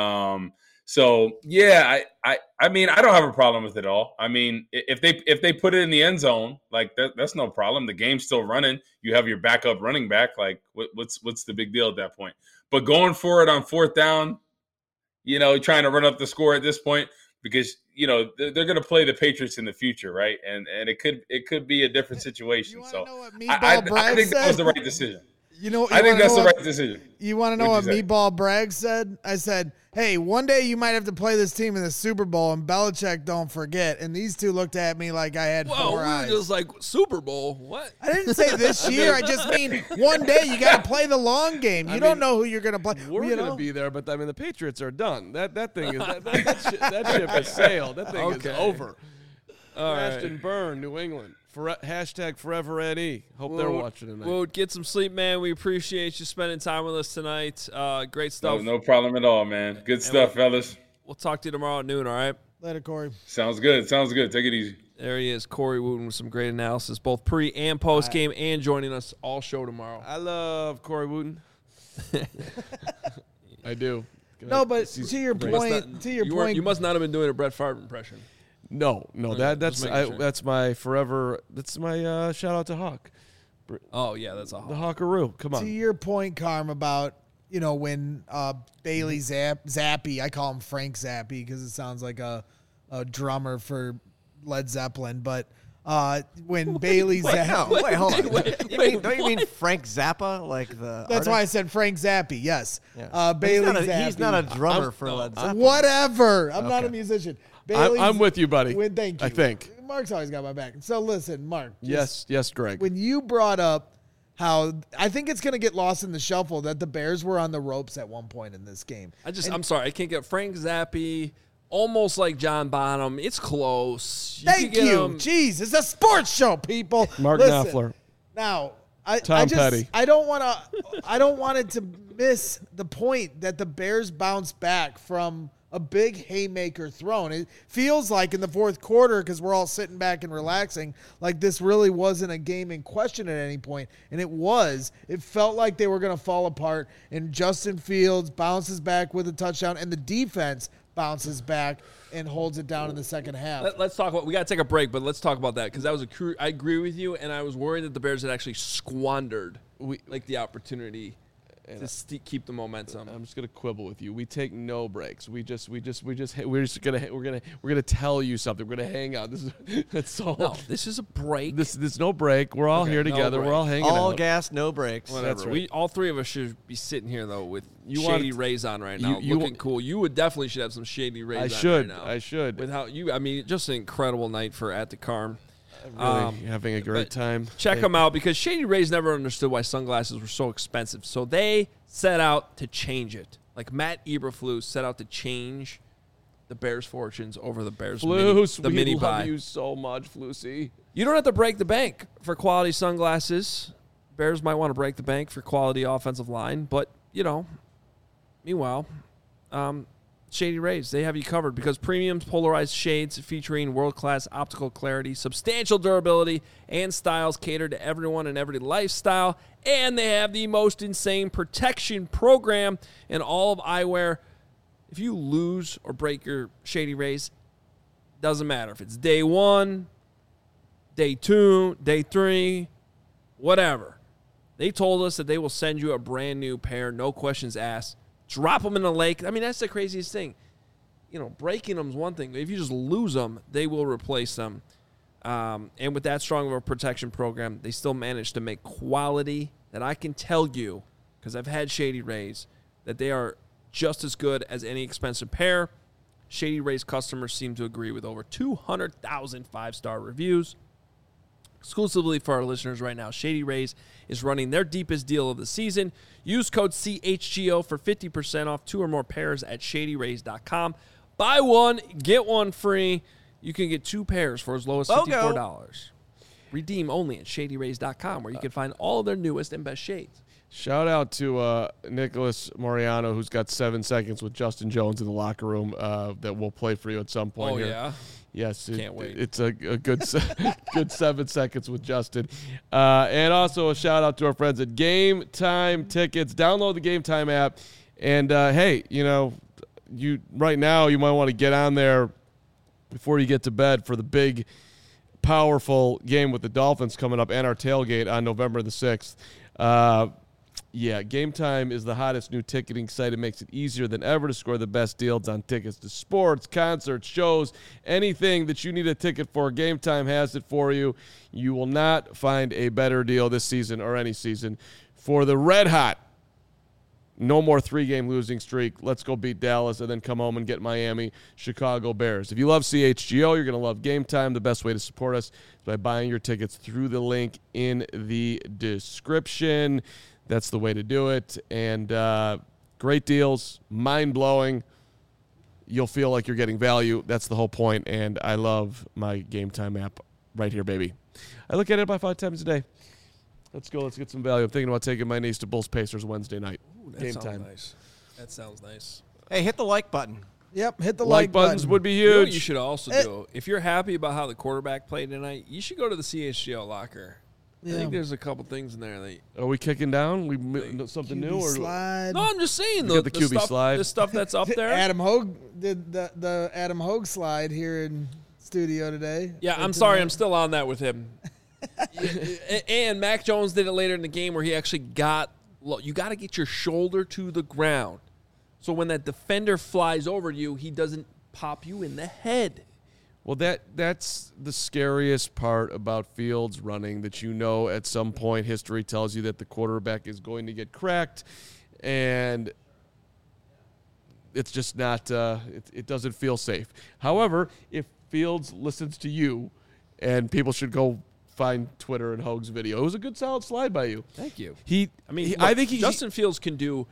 So yeah, I mean, I don't have a problem with it all. I mean, if they put it in the end zone, like that's no problem. The game's still running. You have your backup running back. Like what's the big deal at that point? But going for it on 4th down, trying to run up the score at this point, because they're going to play the Patriots in the future, right? And it could be a different situation. So I think that was the right decision. I think that's the right decision. You want to know what Meatball Bragg said? I said, hey, one day you might have to play this team in the Super Bowl, and Belichick don't forget. And these two looked at me like I had four eyes. Just like, Super Bowl? What? I didn't say this year. I just mean one day you got to play the long game. You don't know who you're going to play. We're going to be there, but I mean the Patriots are done. That thing is that ship has sailed. That thing is over. Crash and burn, New England. Hashtag Forever Eddie. Hope they're watching tonight. We'll get some sleep, man. We appreciate you spending time with us tonight. Great stuff. No problem at all, man. Good stuff, fellas. We'll talk to you tomorrow at noon, all right? Later, Corey. Sounds good. Take it easy. There he is, Corey Wooten, with some great analysis, both pre and post game, and joining us all show tomorrow. I love Corey Wooten. I do. No, but to your point, you must not have been doing a Brett Favre impression. No, that's my forever. That's my shout out to Hawk. Oh yeah, that's a Hawk. The Hawkaroo. Come on. To your point, Carm, about when Bailey Zappi, I call him Frank Zappi because it sounds like a drummer for Led Zeppelin, but when Bailey Zappi... Wait, hold on. Don't you mean Frank Zappa? Like the That's artist? why I said Frank Zappi, yes. Yeah. Bailey Zappi. He's not a drummer for Led Zeppelin. Whatever. I'm not a musician. I'm with you, buddy. Thank you. I think. Mark's always got my back. So listen, Mark. Yes, Greg. When you brought up how I think it's going to get lost in the shuffle that the Bears were on the ropes at one point in this game. I'm sorry. I can't get Frank Zappi, almost like John Bonham. It's close. Thank you. Jeez, it's a sports show, people. Mark Listen, Knopfler. Now, Tom Petty. I don't want it to miss the point that the Bears bounced back from a big haymaker thrown. It feels like in the fourth quarter, because we're all sitting back and relaxing, like this really wasn't a game in question at any point, and it was. It felt like they were going to fall apart, and Justin Fields bounces back with a touchdown, and the defense bounces back and holds it down in the second half. Let's talk about. We got to take a break, but let's talk about that because that was I agree with you, and I was worried that the Bears had actually squandered the opportunity to keep the momentum. I'm just gonna quibble with you. We take no breaks. We're gonna tell you something. We're gonna hang out. This is a break. This no break. We're all here together. We're all hanging out. All gas, no breaks. Whatever. That's right. All three of us should be sitting here though with Shady Rays on right now, looking cool. You would definitely should have some Shady Rays. Right now. I should. Just an incredible night for At the Carm. Really having a great time. Check them out because Shady Rays never understood why sunglasses were so expensive. So they set out to change it. Like Matt Eberflus set out to change the Bears' fortunes over the Bears' mini buy. Love you so much, Flusy. You don't have to break the bank for quality sunglasses. Bears might want to break the bank for quality offensive line, but, meanwhile, Shady Rays, they have you covered because premium polarized shades featuring world-class optical clarity, substantial durability, and styles cater to everyone and every lifestyle. And they have the most insane protection program in all of eyewear. If you lose or break your Shady Rays, doesn't matter if it's day 1, day 2, day 3, whatever. They told us that they will send you a brand new pair, no questions asked. Drop them in the lake. I mean, that's the craziest thing. Breaking them is one thing. If you just lose them, they will replace them. And with that strong of a protection program, they still manage to make quality that I can tell you, because I've had Shady Rays, that they are just as good as any expensive pair. Shady Rays customers seem to agree with over 200,000 5-star reviews. Exclusively for our listeners right now, Shady Rays is running their deepest deal of the season. Use code CHGO for 50% off 2 or more pairs at ShadyRays.com. Buy one, get one free. You can get 2 pairs for as low as $54. Redeem only at ShadyRays.com, where you can find all of their newest and best shades. Shout out to Nicholas Moriano, who's got 7 seconds with Justin Jones in the locker room that will play for you at some point. Oh, yeah? Yes, can't wait. It's a good 7 seconds with Justin. And also a shout out to our friends at Game Time Tickets. Download the Game Time app. And, hey, you right now you might want to get on there before you get to bed for the big, powerful game with the Dolphins coming up and our tailgate on November the 6th. Yeah, Game Time is the hottest new ticketing site. It makes it easier than ever to score the best deals on tickets to sports, concerts, shows, anything that you need a ticket for. Game Time has it for you. You will not find a better deal this season or any season for the red hot. No more 3-game losing streak. Let's go beat Dallas and then come home and get Miami, Chicago Bears. If you love CHGO, you're going to love Game Time. The best way to support us is by buying your tickets through the link in the description. That's the way to do it. And great deals, mind-blowing. You'll feel like you're getting value. That's the whole point. And I love my Game Time app right here, baby. I look at it about 5 times a day. Let's go. Let's get some value. I'm thinking about taking my niece to Bulls Pacers Wednesday night. Ooh, Game Time. Nice. That sounds nice. Hey, hit the like button. Yep, hit the Like buttons button. would be You know what huge. you should also do? If you're happy about how the quarterback played tonight, you should go to the CHGO locker. I think there's a couple things in there that. Are we kicking down? Something new? Or slide. No, I'm just saying got the QB stuff, slide. the stuff that's up there. Adam Hogue did the Adam Hogue slide here in studio today. Yeah, I'm sorry, I'm still on that with him. And Mac Jones did it later in the game where he actually got you got to get your shoulder to the ground. So when that defender flies over you, he doesn't pop you in the head. Well, that's the scariest part about Fields running, that at some point history tells you that the quarterback is going to get cracked, and it's just not it doesn't feel safe. However, if Fields listens to you, and people should go find Twitter and Hogue's video. It was a good solid slide by you. Thank you. I think Justin Fields can do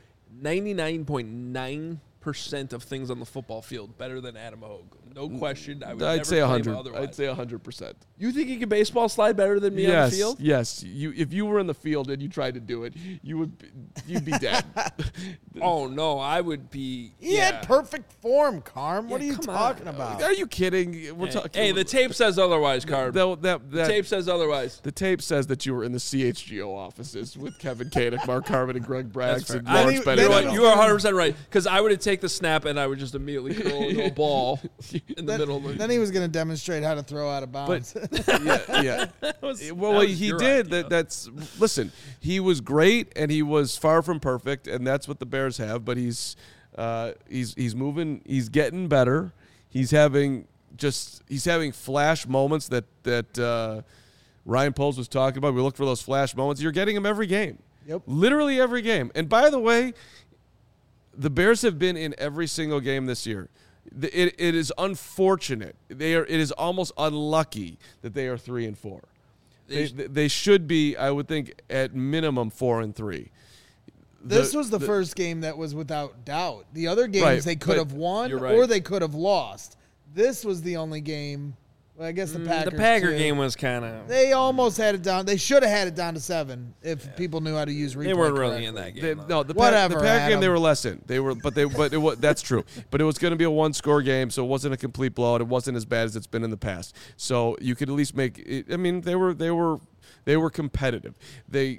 99.9% of things on the football field better than Adam Hogue. No question. I'd say 100. I'd say 100%. You think he can baseball slide better than me on the field? Yes. If you were in the field and you tried to do it, you'd be dead. Oh no, I would be. He had perfect form, Carm. What are you talking about? Are you kidding? We're talking. Hey, the tape says otherwise, Carm. The tape says otherwise. The tape says that you were in the CHGO offices with Kevin Koenig, Mark Harmon, and Greg Braggs. And Lawrence Bennett. You know what? You are 100% right, because I would have taken the snap and I would just immediately curl into a ball in the middle. Then he was going to demonstrate how to throw out of bounds. Yeah. He did. Listen, he was great and he was far from perfect, and that's what the Bears have. But he's moving. He's getting better. He's having flash moments that Ryan Poles was talking about. We look for those flash moments. You're getting them every game. Yep. Literally every game. And by the way, the Bears have been in every single game this year. It is unfortunate. It is almost unlucky that they are 3-4. They should be, I would think, at minimum 4-3. This was the first game that was without doubt. The other games they could have won or they could have lost. This was the only game. Well, I guess the Packers. The Packer game was kind of. They almost had it down. They should have had it down to 7 if people knew how to use replay. They weren't really in that game. The Packer game they were less in. They were, but it was, that's true. But it was going to be a 1-score game, so it wasn't a complete blowout. It wasn't as bad as it's been in the past. So you could at least make it. I mean, they were competitive. They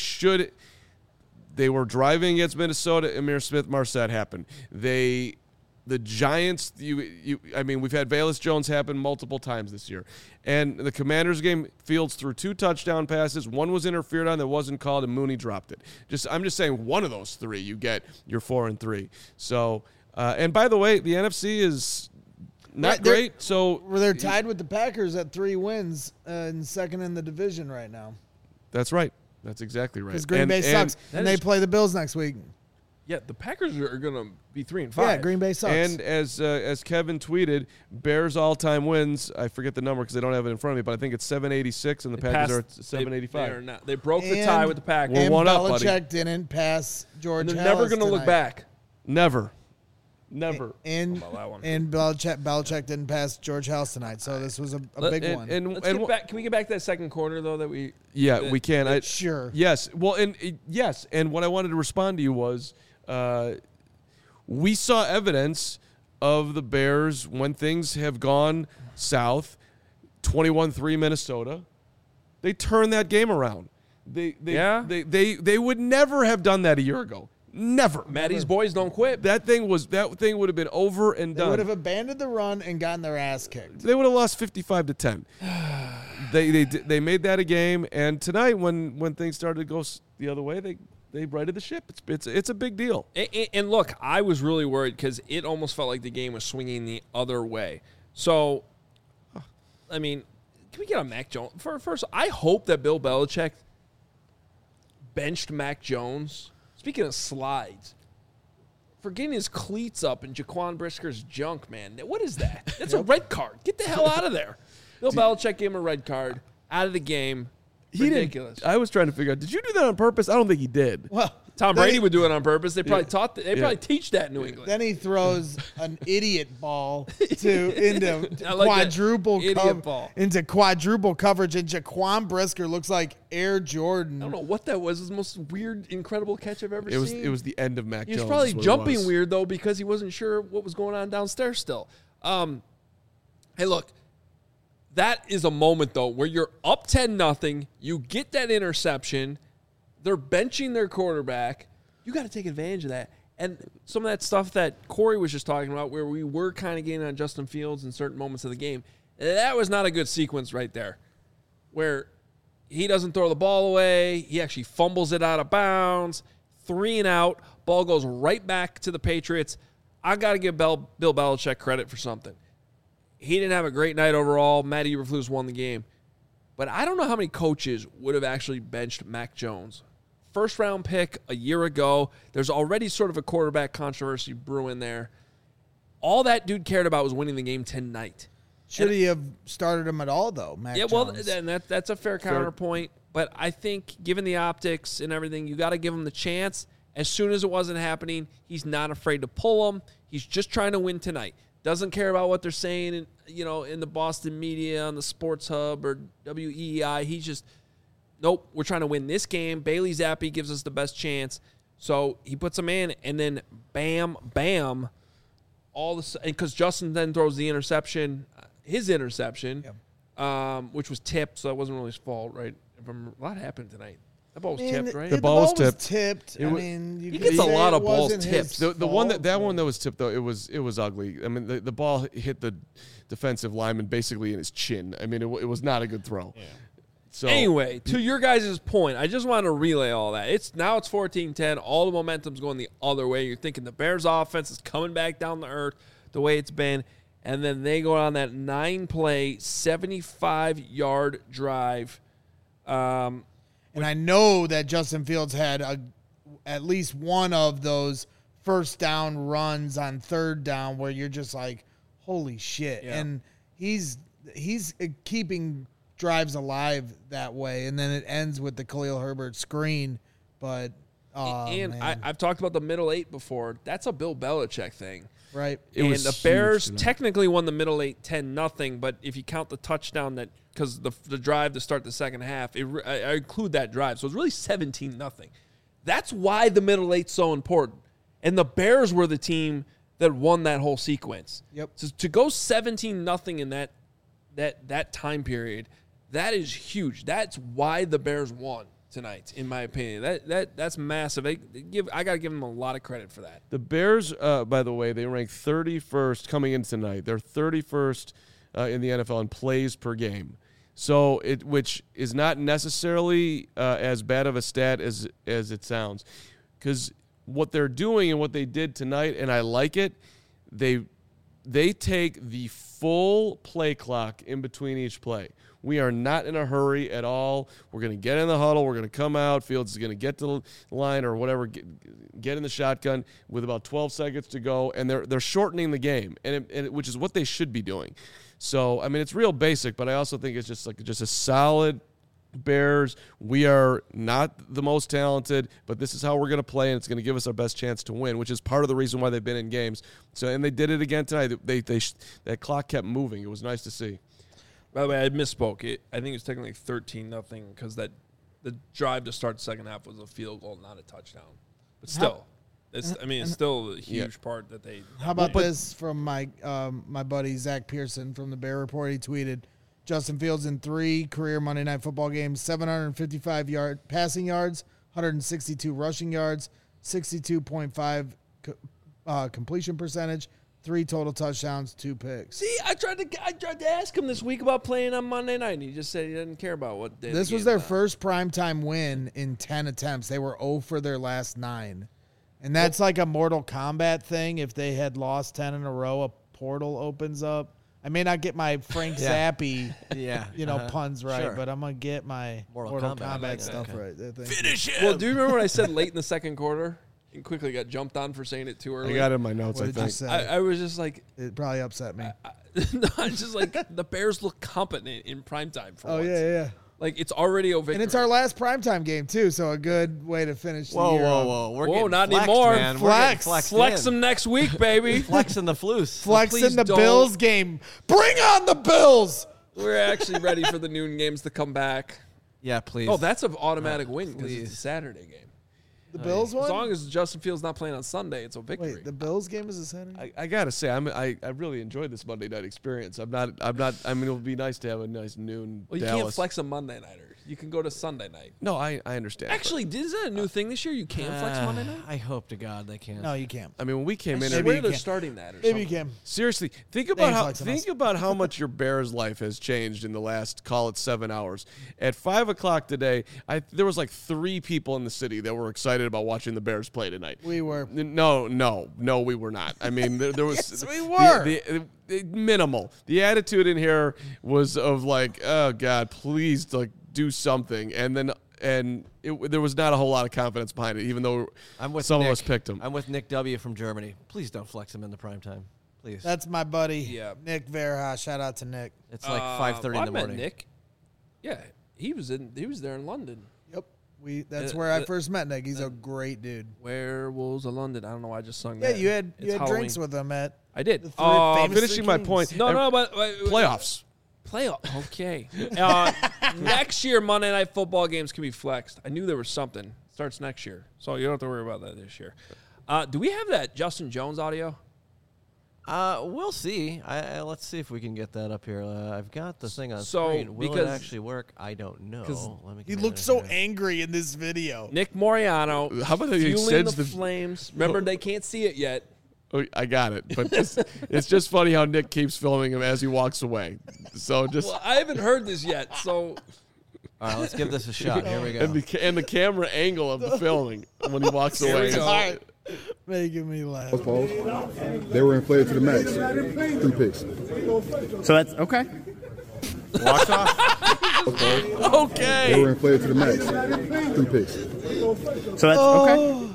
were driving against Minnesota. Emir Smith-Marset happened. The Giants, we've had Velus Jones happen multiple times this year. And the Commanders game, Fields threw 2 touchdown passes. One was interfered on that wasn't called, and Mooney dropped it. I'm just saying one of those 3, you get your 4-3. So, and by the way, the NFC is not great. So they're tied with the Packers at 3 wins and second in the division right now. That's right. That's exactly right. Because Green Bay sucks, and they play the Bills next week. Yeah, the Packers are going to be 3-5. Yeah, Green Bay sucks. And as Kevin tweeted, Bears all-time wins. I forget the number because I don't have it in front of me, but I think it's 786, and the Packers are at 785. They broke the tie with the Packers. And Belichick didn't pass George Halas. They're never going to look back. Never. And Belichick didn't pass George Halas tonight, so this was a big one. Can we get back to that second quarter though? We can. Sure. Yes. Well, and what I wanted to respond to you was. We saw evidence of the Bears when things have gone south, 21-3 Minnesota. They turned that game around. They would never have done that a year ago. Never. Maddie's boys don't quit. That thing would have been over and done. They would have abandoned the run and gotten their ass kicked. They would have lost 55-10. They made that a game, and tonight when things started to go the other way, they righted the ship. It's a big deal. And look, I was really worried because it almost felt like the game was swinging the other way. So, I mean, can we get on Mac Jones? First, I hope that Bill Belichick benched Mac Jones. Speaking of slides, for getting his cleats up in Jaquan Brisker's junk, man. What is that? That's a red card. Get the hell out of there. Bill Belichick gave him a red card. Out of the game. Ridiculous. I was trying to figure out, did you do that on purpose? I don't think he did. Well, Tom Brady would do it on purpose. They probably probably teach that in New England. Then he throws an idiot ball into quadruple coverage, and Jaquan Brisker looks like Air Jordan. I don't know what that was. It was the most weird, incredible catch I've ever seen. It was the end of Mac Jones. He was probably jumping weird though because he wasn't sure what was going on downstairs still. Hey, look. That is a moment, though, where you're up 10-0. You get that interception. They're benching their quarterback. You got to take advantage of that. And some of that stuff that Corey was just talking about where we were kind of getting on Justin Fields in certain moments of the game, that was not a good sequence right there where he doesn't throw the ball away. He actually fumbles it out of bounds. 3 and out. Ball goes right back to the Patriots. I got to give Bill Belichick credit for something. He didn't have a great night overall. Matt Eberflus won the game. But I don't know how many coaches would have actually benched Mac Jones. First-round pick a year ago. There's already sort of a quarterback controversy brewing there. All that dude cared about was winning the game tonight. Should he have started him at all, though, Mac Jones? Well, then that's a fair counterpoint. But I think, given the optics and everything, you got to give him the chance. As soon as it wasn't happening, he's not afraid to pull him. He's just trying to win tonight. Doesn't care about what they're saying, in the Boston media, on the Sports Hub or WEEI. He's just, nope, we're trying to win this game. Bailey Zappi gives us the best chance. So he puts him in, and then bam, bam, because Justin then throws the interception, his interception, which was tipped, so that wasn't really his fault, right? A lot happened tonight. That ball was tipped, right? The ball was tipped. He gets a lot of balls tipped. The one that was tipped though, it was ugly. I mean, the ball hit the defensive lineman basically in his chin. I mean, it was not a good throw. Yeah. So anyway, to your guys' point, I just want to relay all that. It's 14-10. All the momentum's going the other way. You're thinking the Bears' offense is coming back down to earth the way it's been, and then they go on that 9-play, 75-yard drive. And I know that Justin Fields had at least one of those first down runs on third down where you're just like, holy shit. Yeah. And he's keeping drives alive that way. And then it ends with the Khalil Herbert screen. But, I've talked about the middle 8 before. That's a Bill Belichick thing. Right. The Bears technically won the middle 8 10-0, but if you count the touchdown because the drive to start the second half, I include that drive. So it's really 17-0. That's why the middle 8's so important. And the Bears were the team that won that whole sequence. Yep. So to go 17-0 in that time period, that is huge. That's why the Bears won tonight, in my opinion. That's massive. I got to give them a lot of credit for that. The Bears, by the way, they rank 31st coming in tonight. They're 31st in the NFL in plays per game. So which is not necessarily as bad of a stat as it sounds, because what they're doing and what they did tonight, and I like it, they take the full play clock in between each play. We are not in a hurry at all. We're going to get in the huddle. We're going to come out. Fields is going to get to the line or whatever, get in the shotgun with about 12 seconds to go, and they're shortening the game, which is what they should be doing. So, I mean, it's real basic, but I also think it's just a solid Bears. We are not the most talented, but this is how we're going to play, and it's going to give us our best chance to win, which is part of the reason why they've been in games. So, and they did it again tonight. That clock kept moving. It was nice to see. By the way, I misspoke. I think it was technically 13-0 because the drive to start the second half was a field goal, not a touchdown. But still, it's still a huge part that they. How about this from my buddy Zach Pearson from the Bear Report? He tweeted, Justin Fields in 3 career Monday Night Football games, 755 passing yards, 162 rushing yards, 62.5 completion percentage, 3 total touchdowns, 2 picks. See, I tried to ask him this week about playing on Monday night, and he just said he didn't care about what day. This was their first primetime win in 10 attempts. They were 0 for their last 9. And that's like a Mortal Kombat thing. If they had lost 10 in a row, a portal opens up. I may not get my Frank Zappi, puns right, but I'm going to get my Mortal Kombat stuff right. Finish it! Well, do you remember what I said late in the second quarter? And quickly got jumped on for saying it too early. I got it in my notes, I think. I was just like... It probably upset me. No, it's just like the Bears look competent in primetime for once. Yeah. Like, it's already a victory. And it's our last primetime game, too, so a good way to finish the year. Whoa, not flexed, anymore. Man. Flex them next week, baby. Flexing the Floos. Flexing the Bills game. Bring on the Bills! We're actually ready for the noon games to come back. Yeah, please. Oh, that's an automatic win because it's a Saturday game. The Bills one? As long as Justin Fields not playing on Sunday, it's a victory. Wait, the Bills game is a Saturday? I gotta say, I really enjoyed this Monday night experience. I mean, it would be nice to have a nice noon. Well, you Dallas. can't flex a Monday nighter. You can go to Sunday night. No, I understand. Actually, is that a new thing this year? You can't flex Monday night? I hope to God they can. No, you can't. I mean, when we came in, swear they're starting that. Or Maybe something. you can. Seriously, think about how much your Bears life has changed in the last, call it 7 hours. At 5 o'clock today, there was like 3 people in the city that were excited excited about watching the Bears play tonight. We were. No, we were not. I mean, there was. Yes, we were. The minimal. The attitude in here was of like, oh God, please do something, and then there was not a whole lot of confidence behind it, even though some of us picked him. I'm with Nick W. from Germany. Please don't flex him in the prime time. Please. That's my buddy, Nick Verha. Shout out to Nick. It's like 5:30 in the morning. Nick. Yeah, he was there in London. Yep. That's where I first met Nick. He's a great dude. Werewolves of London. I don't know why I just sung Yeah, that. you had drinks Halloween. with him at. I did. the famous Finishing Three my Kings. point. No, but Playoffs. Okay. Next year, Monday Night Football games can be flexed. I knew there was something. Starts next year, so you don't have to worry about that this year. Do we have that Justin Jones audio? We'll see. Let's see if we can get that up here. I've got the thing on So, screen. Will it because- actually work? I don't know. Let me He get looked it so here. angry in this video. Nick Moriano. How about he fueling extends the the- flames? Remember, they can't see it yet. Oh, I got it, but it's just funny how Nick keeps filming him as he walks away. So just Well, I haven't heard this yet, so All right, let's give this a shot. Here we go. and the camera angle of the filming when he walks Here away. we go. All right. Making me laugh. Balls. They were inflated to the max. 3 picks. So that's okay. Walks off. They Okay. were inflated to the max. 3 picks. So that's okay.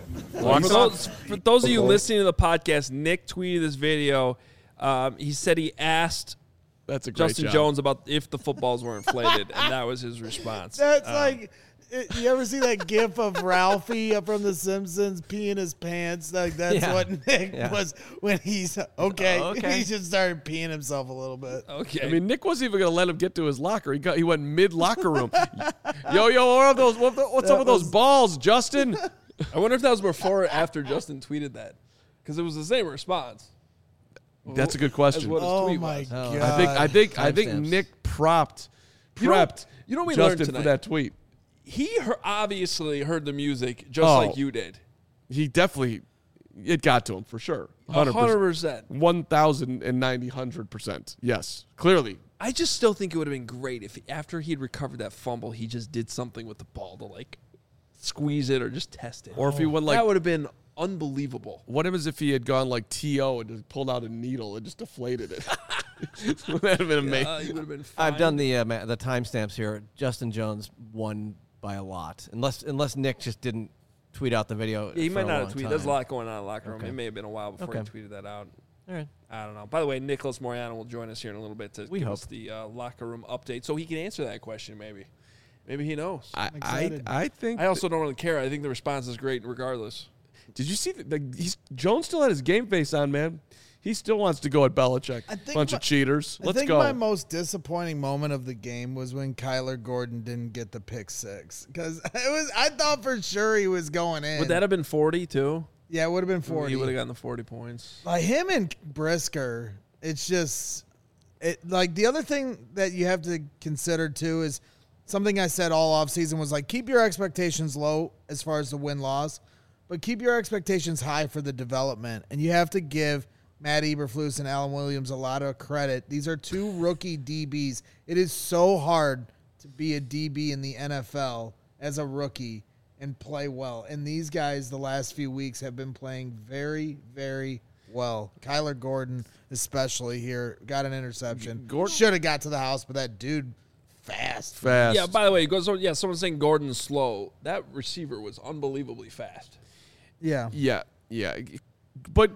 For those of you listening to the podcast, Nick tweeted this video. He said he asked That's a great Justin job. Jones about if the footballs were inflated, and that was his response. That's you ever see that gif of Ralphie from The Simpsons peeing his pants? Like that's Yeah. what Nick was when he's okay. Okay. He just started peeing himself a little bit. Okay. I mean, Nick wasn't even going to let him get to his locker. He went mid locker room. Yo, what are those? What's up with those balls, Justin? I wonder if that was before or after Justin tweeted that, because it was the same response. That's a good As question. what his Oh tweet my was. god! I think Timestamps. Nick prepped You know what we learned Justin tonight? for that tweet. He obviously heard the music just Oh. like you did. He definitely it got to him for sure. 100%. 1,090%. Yes, clearly. I just still think it would have been great if after he'd recovered that fumble, he just did something with the ball to squeeze it or just test it. Or if he went that would have been unbelievable. what happens if he had gone like T.O. and just pulled out a needle and just deflated it? That'd have been amazing. He would have been fine. I've done the timestamps here. Justin Jones won by a lot, unless Nick just didn't tweet out the video. Yeah, he for might a not long have tweeted. time. There's a lot going on in the locker room. Okay. It may have been a while before Okay. he tweeted that out. All right. I don't know. By the way, Nicholas Moriano will join us here in a little bit to give us the locker room update, so he can answer that question. Maybe he knows. I think. I also don't really care. I think the response is great regardless. Did you see Jones still had his game face on, man? He still wants to go at Belichick. Bunch of cheaters. Let's I think go. my most disappointing moment of the game was when Kyler Gordon didn't get the pick six because I thought for sure he was going in. Would that have been 40 too? Yeah, it would have been 40. He would have gotten the 40 points. Like him and Brisker, it's just like the other thing that you have to consider too is something I said all offseason was like keep your expectations low as far as the win-loss, but keep your expectations high for the development. And you have to give Matt Eberflus and Alan Williams a lot of credit. These are two rookie DBs. It is so hard to be a DB in the NFL as a rookie and play well. And these guys the last few weeks have been playing very, very well. Kyler Gordon especially here got an interception. Gordon- Should have got to the house, but that dude fast. Fast. Yeah, by the way, someone's saying Gordon's slow. That receiver was unbelievably fast. Yeah. Yeah. But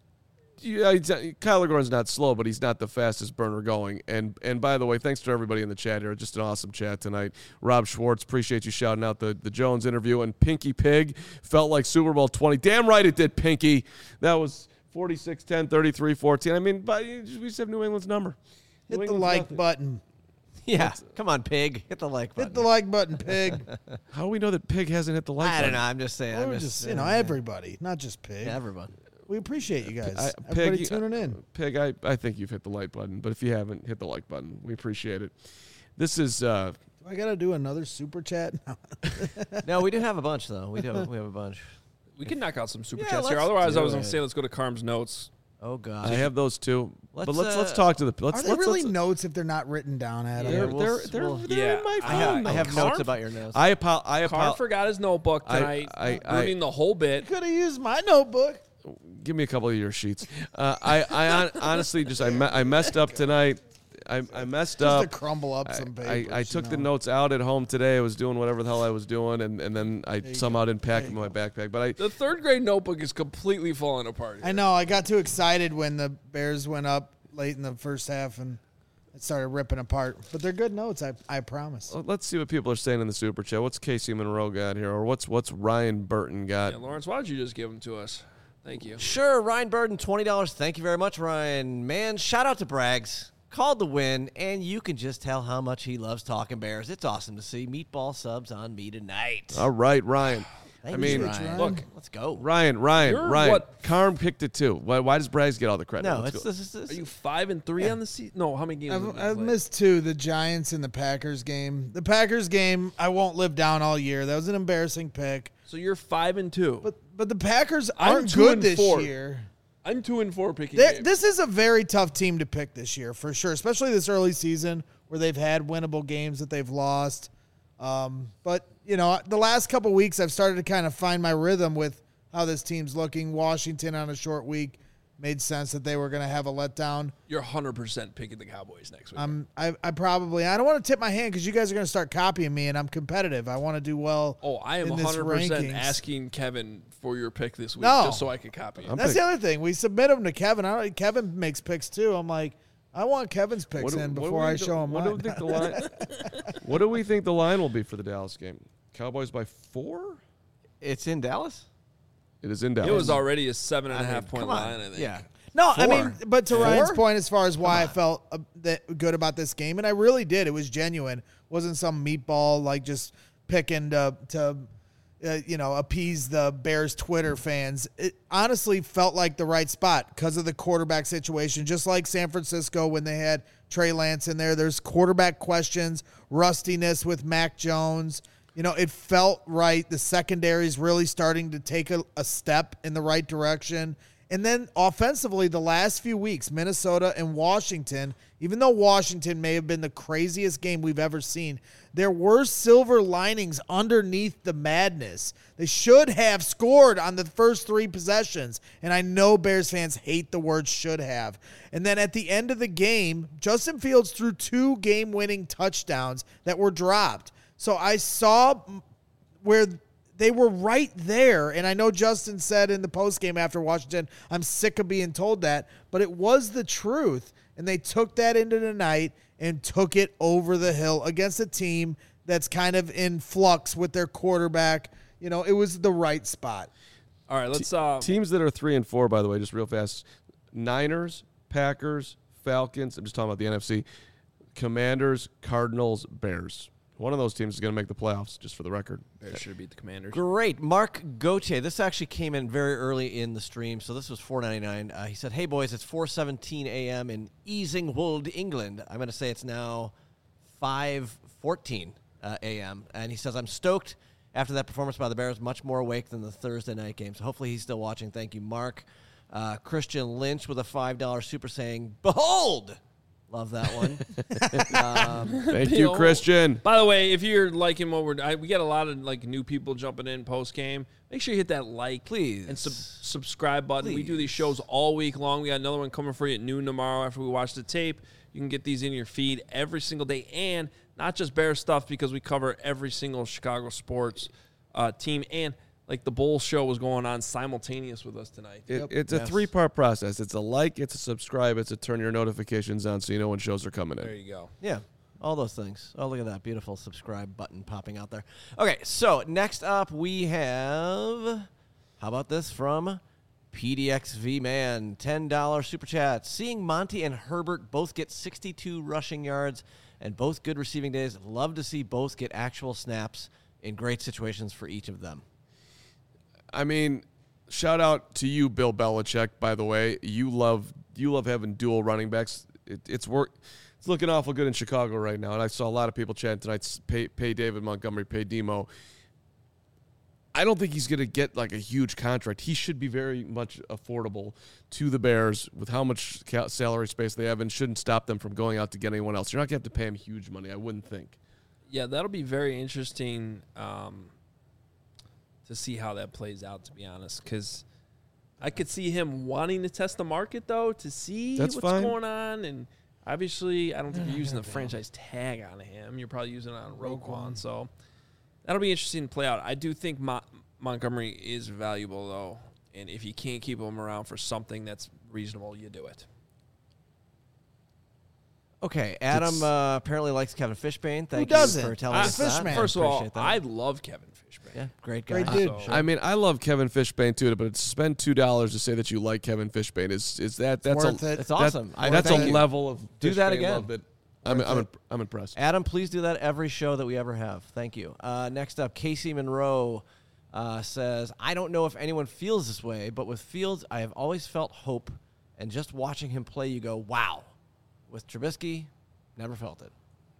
Kyler Gordon's not slow, but he's not the fastest burner going. And by the way, thanks to everybody in the chat here. Just an awesome chat tonight. Rob Schwartz, appreciate you shouting out the Jones interview. And Pinky Pig felt like Super Bowl 20. Damn right it did, Pinky. That was 46-10, 33-14. I mean, but we just have New England's number. Hit New the England's like nothing. button. Yeah, come on, Pig, hit the like button. Hit the like button, Pig. How do we know that Pig hasn't hit the like I button? don't know. I'm just saying. We're just everybody, not just Pig. Yeah, everyone. We appreciate you guys. Pig, Everybody tuning in. Pig, I think you've hit the like button, but if you haven't, hit the like button. We appreciate it. This is Do I gotta do another super chat? No, we do have a bunch though. We have a bunch. We can knock out some super Yeah, chats here. let's Otherwise, I do was going it. to say let's go to Carm's notes. Oh God. I have those too. But Let's, let's talk to the. Are they really notes if they're not written down, Adam? They're Yeah, in my I phone. have Carr- notes about your notes. Carr forgot his notebook tonight, ruining the whole bit. Could have used my notebook. Give me a couple of your sheets. I honestly I messed up tonight. I messed Just up. to crumble up some papers. I took the notes out at home today. I was doing whatever the hell I was doing, and then I somehow didn't pack them in my backpack. But The third grade notebook is completely falling apart. I know. I got too excited when the Bears went up late in the first half and it started ripping apart. But they're good notes, I promise. let's see what people are saying in the super chat. What's Casey Monroe got here, or what's Ryan Burton got? Yeah, Lawrence, why don't you just give them to us? Thank you. Sure, Ryan Burden, $20. Thank you very much, Ryan. Man, shout out to Braggs. Called the win, and you can just tell how much he loves talking Bears. It's awesome to see meatball subs on me tonight. All right, Ryan. Thank I mean, you, Ryan. look, let's go. Ryan. You're what- Carm picked it too. Why does Braggs get all the credit? No, Let's it's go. this. Are you 5-3 on the season? No, how many games? have you I've played? missed two, the Giants and the Packers game. The Packers game, I won't live down all year. That was an embarrassing pick. So you're 5-2. But the Packers I'm aren't 2 good and this 4. year. I'm 2-4 picking games. This is a very tough team to pick this year, for sure, especially this early season where they've had winnable games that they've lost. But, the last couple weeks I've started to kind of find my rhythm with how this team's looking. Washington on a short week made sense that they were going to have a letdown. You're 100% picking the Cowboys next week. I don't want to tip my hand because you guys are going to start copying me, and I'm competitive. I want to do well. Oh, I am in this 100% rankings. asking Kevin for your pick this week No. just so I can copy it. That's the other thing. We submit them to Kevin. Kevin makes picks too. I'm like, I want Kevin's picks in before I show him What mine. do we think the line? What do we think the line will be for the Dallas game? Cowboys by 4? It's in Dallas? It is in Dallas. It was already a 7.5 point come on. line, I think. Yeah. No, I 4. mean, but to Ryan's 4? point, as far as why I felt good about this game, and I really did. It was genuine. It wasn't some meatball like just picking to appease the Bears Twitter fans. It honestly felt like the right spot because of the quarterback situation. Just like San Francisco when they had Trey Lance in there, there's quarterback questions, rustiness with Mac Jones. It felt right. The secondary's really starting to take a step in the right direction. And then offensively, the last few weeks, Minnesota and Washington, even though Washington may have been the craziest game we've ever seen, there were silver linings underneath the madness. They should have scored on the first 3 possessions. And I know Bears fans hate the word should have. And then at the end of the game, Justin Fields threw 2 game-winning touchdowns that were dropped. So I saw where they were right there. And I know Justin said in the postgame after Washington, I'm sick of being told that. But it was the truth. And they took that into the night and took it over the hill against a team that's kind of in flux with their quarterback. It was the right spot. All right, let's teams that are 3 and 4, by the way, just real fast. Niners, Packers, Falcons. I'm just talking about the NFC. Commanders, Cardinals, Bears. One of those teams is going to make the playoffs, just for the record. Bears should beat the Commanders. Great. Mark Gauthier. This actually came in very early in the stream, so this was $4.99. He said, hey, boys, it's 4:17 a.m. in Easingwold, England. I'm going to say it's now 5:14 a.m. And he says, I'm stoked after that performance by the Bears, much more awake than the Thursday night game. So hopefully he's still watching. Thank you, Mark. Christian Lynch with a $5 super saying, behold! Love that one. Thank you, Christian. By the way, if you're liking what we get a lot of new people jumping in post game. Make sure you hit that like, please, and subscribe button. Please. We do these shows all week long. We got another one coming for you at noon tomorrow after we watch the tape. You can get these in your feed every single day, and not just Bears stuff because we cover every single Chicago sports team and. The Bulls show was going on simultaneous with us tonight. It's a 3-part process. It's a like, it's a subscribe, it's a turn your notifications on so you know when shows are coming in. There you go. Yeah, all those things. Oh, look at that beautiful subscribe button popping out there. Okay, so next up we have, how about this from PDXV Man, $10 super chat. Seeing Monty and Herbert both get 62 rushing yards and both good receiving days. Love to see both get actual snaps in great situations for each of them. I mean, shout out to you, Bill Belichick, by the way. You love having dual running backs. It's looking awful good in Chicago right now, and I saw a lot of people chatting tonight, pay David Montgomery, pay Demo. I don't think he's going to get like a huge contract. He should be very much affordable to the Bears with how much salary space they have, and shouldn't stop them from going out to get anyone else. You're not going to have to pay him huge money, I wouldn't think. Yeah, that'll be very interesting to see how that plays out, to be honest, because I could see him wanting to test the market, though, to see what's going on. And obviously, I don't think you're using the franchise tag on him. You're probably using it on Roquan. So that'll be interesting to play out. I do think Montgomery is valuable, though. And if you can't keep him around for something that's reasonable, you do it. Okay, Adam apparently likes Kevin Fishbain. Thank Who you doesn't? for telling us that. Fishman. First of all, Appreciate that. I love Kevin Fishbain. Yeah, great guy. Great dude. So- I mean, I love Kevin Fishbain too, but to spend $2 to say that you like Kevin Fishbain is that's worth it. It's awesome. That's a Thank you. level of Do that Fishbain again. love that I'm impressed. Adam, please do that every show that we ever have. Thank you. Next up, Casey Monroe says, I don't know if anyone feels this way, but with Fields, I have always felt hope, and just watching him play, you go, wow. With Trubisky, never felt it.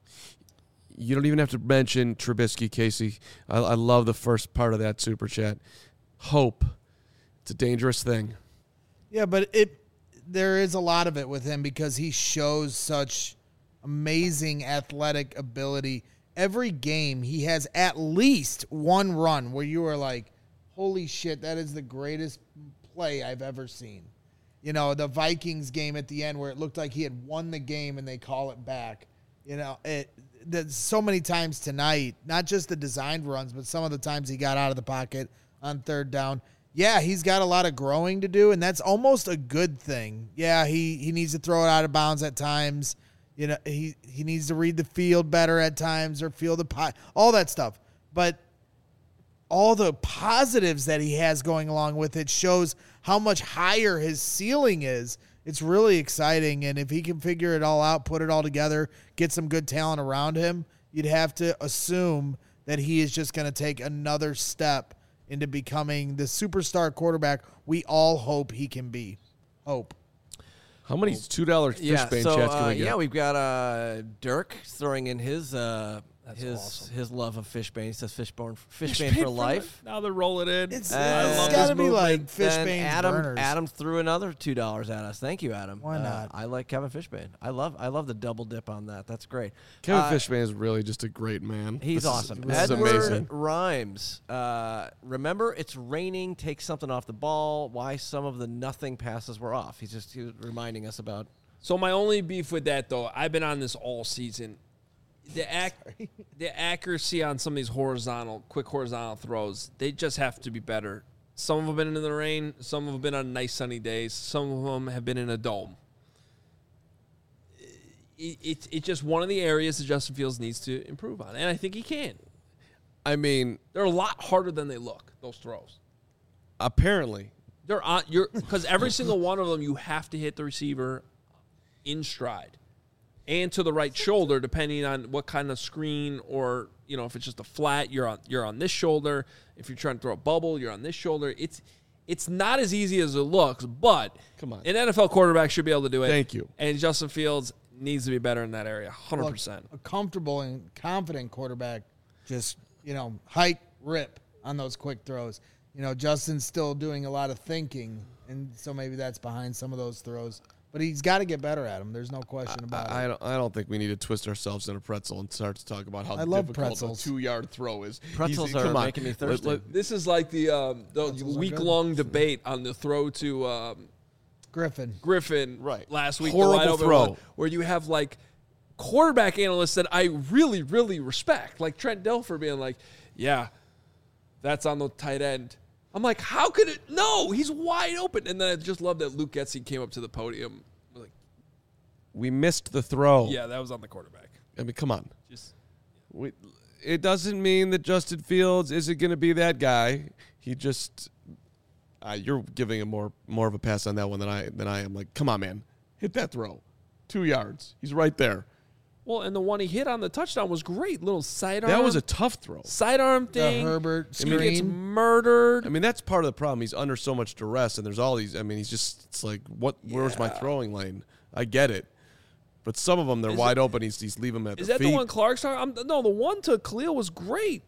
You don't even have to mention Trubisky, Casey. I love the first part of that super chat. Hope. It's a dangerous thing. Yeah, but there is a lot of it with him because he shows such amazing athletic ability. Every game, he has at least one run where you are like, holy shit, that is the greatest play I've ever seen. You know, the Vikings game at the end where it looked like he had won the game and they call it back. You know, there's so many times tonight, not just the designed runs, but some of the times he got out of the pocket on third down. Yeah, he's got a lot of growing to do, and that's almost a good thing. Yeah, he needs to throw it out of bounds at times. You know, he needs to read the field better at times or feel the pot, all that stuff. But all the positives that he has going along with it shows how much higher his ceiling is. It's really exciting, and if he can figure it all out, put it all together, get some good talent around him, you'd have to assume that he is just going to take another step into becoming the superstar quarterback we all hope he can be. Hope. How many $2 Fishbain chats can we get? Yeah, we've got Dirk throwing in his awesome. his love of Fishbain. He says Fishbain for life. Now they're rolling in. It's I love got this to be movement. like Then Fishbain's burners. Adam threw another $2 at us. Thank you, Adam. Why not? I like Kevin Fishbain. I love the double dip on that. That's great. Kevin Fishbain is really just a great man. He's awesome. This is Edward amazing. Rhymes. Remember, it's raining. Take something off the ball. Why some of the nothing passes were off. He was reminding us about. So my only beef with that, though, I've been on this all season. The accuracy on some of these quick horizontal throws, they just have to be better. Some of them have been in the rain. Some of them have been on nice sunny days. Some of them have been in a dome. It's just one of the areas that Justin Fields needs to improve on, and I think he can. I mean, They're a lot harder than they look, those throws. apparently. They're on because every single one of them you have to hit the receiver in stride and to the right shoulder, depending on what kind of screen, or if it's just a flat, you're on this shoulder. If you're trying to throw a bubble, you're on this shoulder. It's not as easy as it looks, but Come on. an NFL quarterback should be able to do it. Thank you. And Justin Fields needs to be better in that area, 100%. A comfortable and confident quarterback just, hike, rip on those quick throws. Justin's still doing a lot of thinking, and so maybe that's behind some of those throws. But he's got to get better at them. There's no question about it. I don't think we need to twist ourselves in a pretzel and start to talk about how love difficult pretzels. a 2-yard throw is. Pretzels Come are on. making me thirsty. This is like the week-long debate on the throw to Griffin Right. last week. Horrible the wide open throw. one, where you have like quarterback analysts that I really, really respect, like Trent Dilfer being like, yeah, that's on the tight end. I'm like, how could it? No, he's wide open. And then I just love that Luke Getsy came up to the podium. Like, We missed the throw. yeah, that was on the quarterback. I mean, come on. Just It doesn't mean that Justin Fields isn't going to be that guy. He just you're giving him more of a pass on that one than I am. Like, come on, man, hit that throw, 2 yards. He's right there. well, and the one he hit on the touchdown was great. Little sidearm. That was a tough throw. sidearm The thing. Herbert He gets screen. murdered. I mean, that's part of the problem. He's under so much duress, and there's all these. I mean, it's like, where's my throwing lane? I get it. But some of them, they're wide open. He's leaving them at Is their that feet. the one Clark's talking? No, the one to Khalil was great.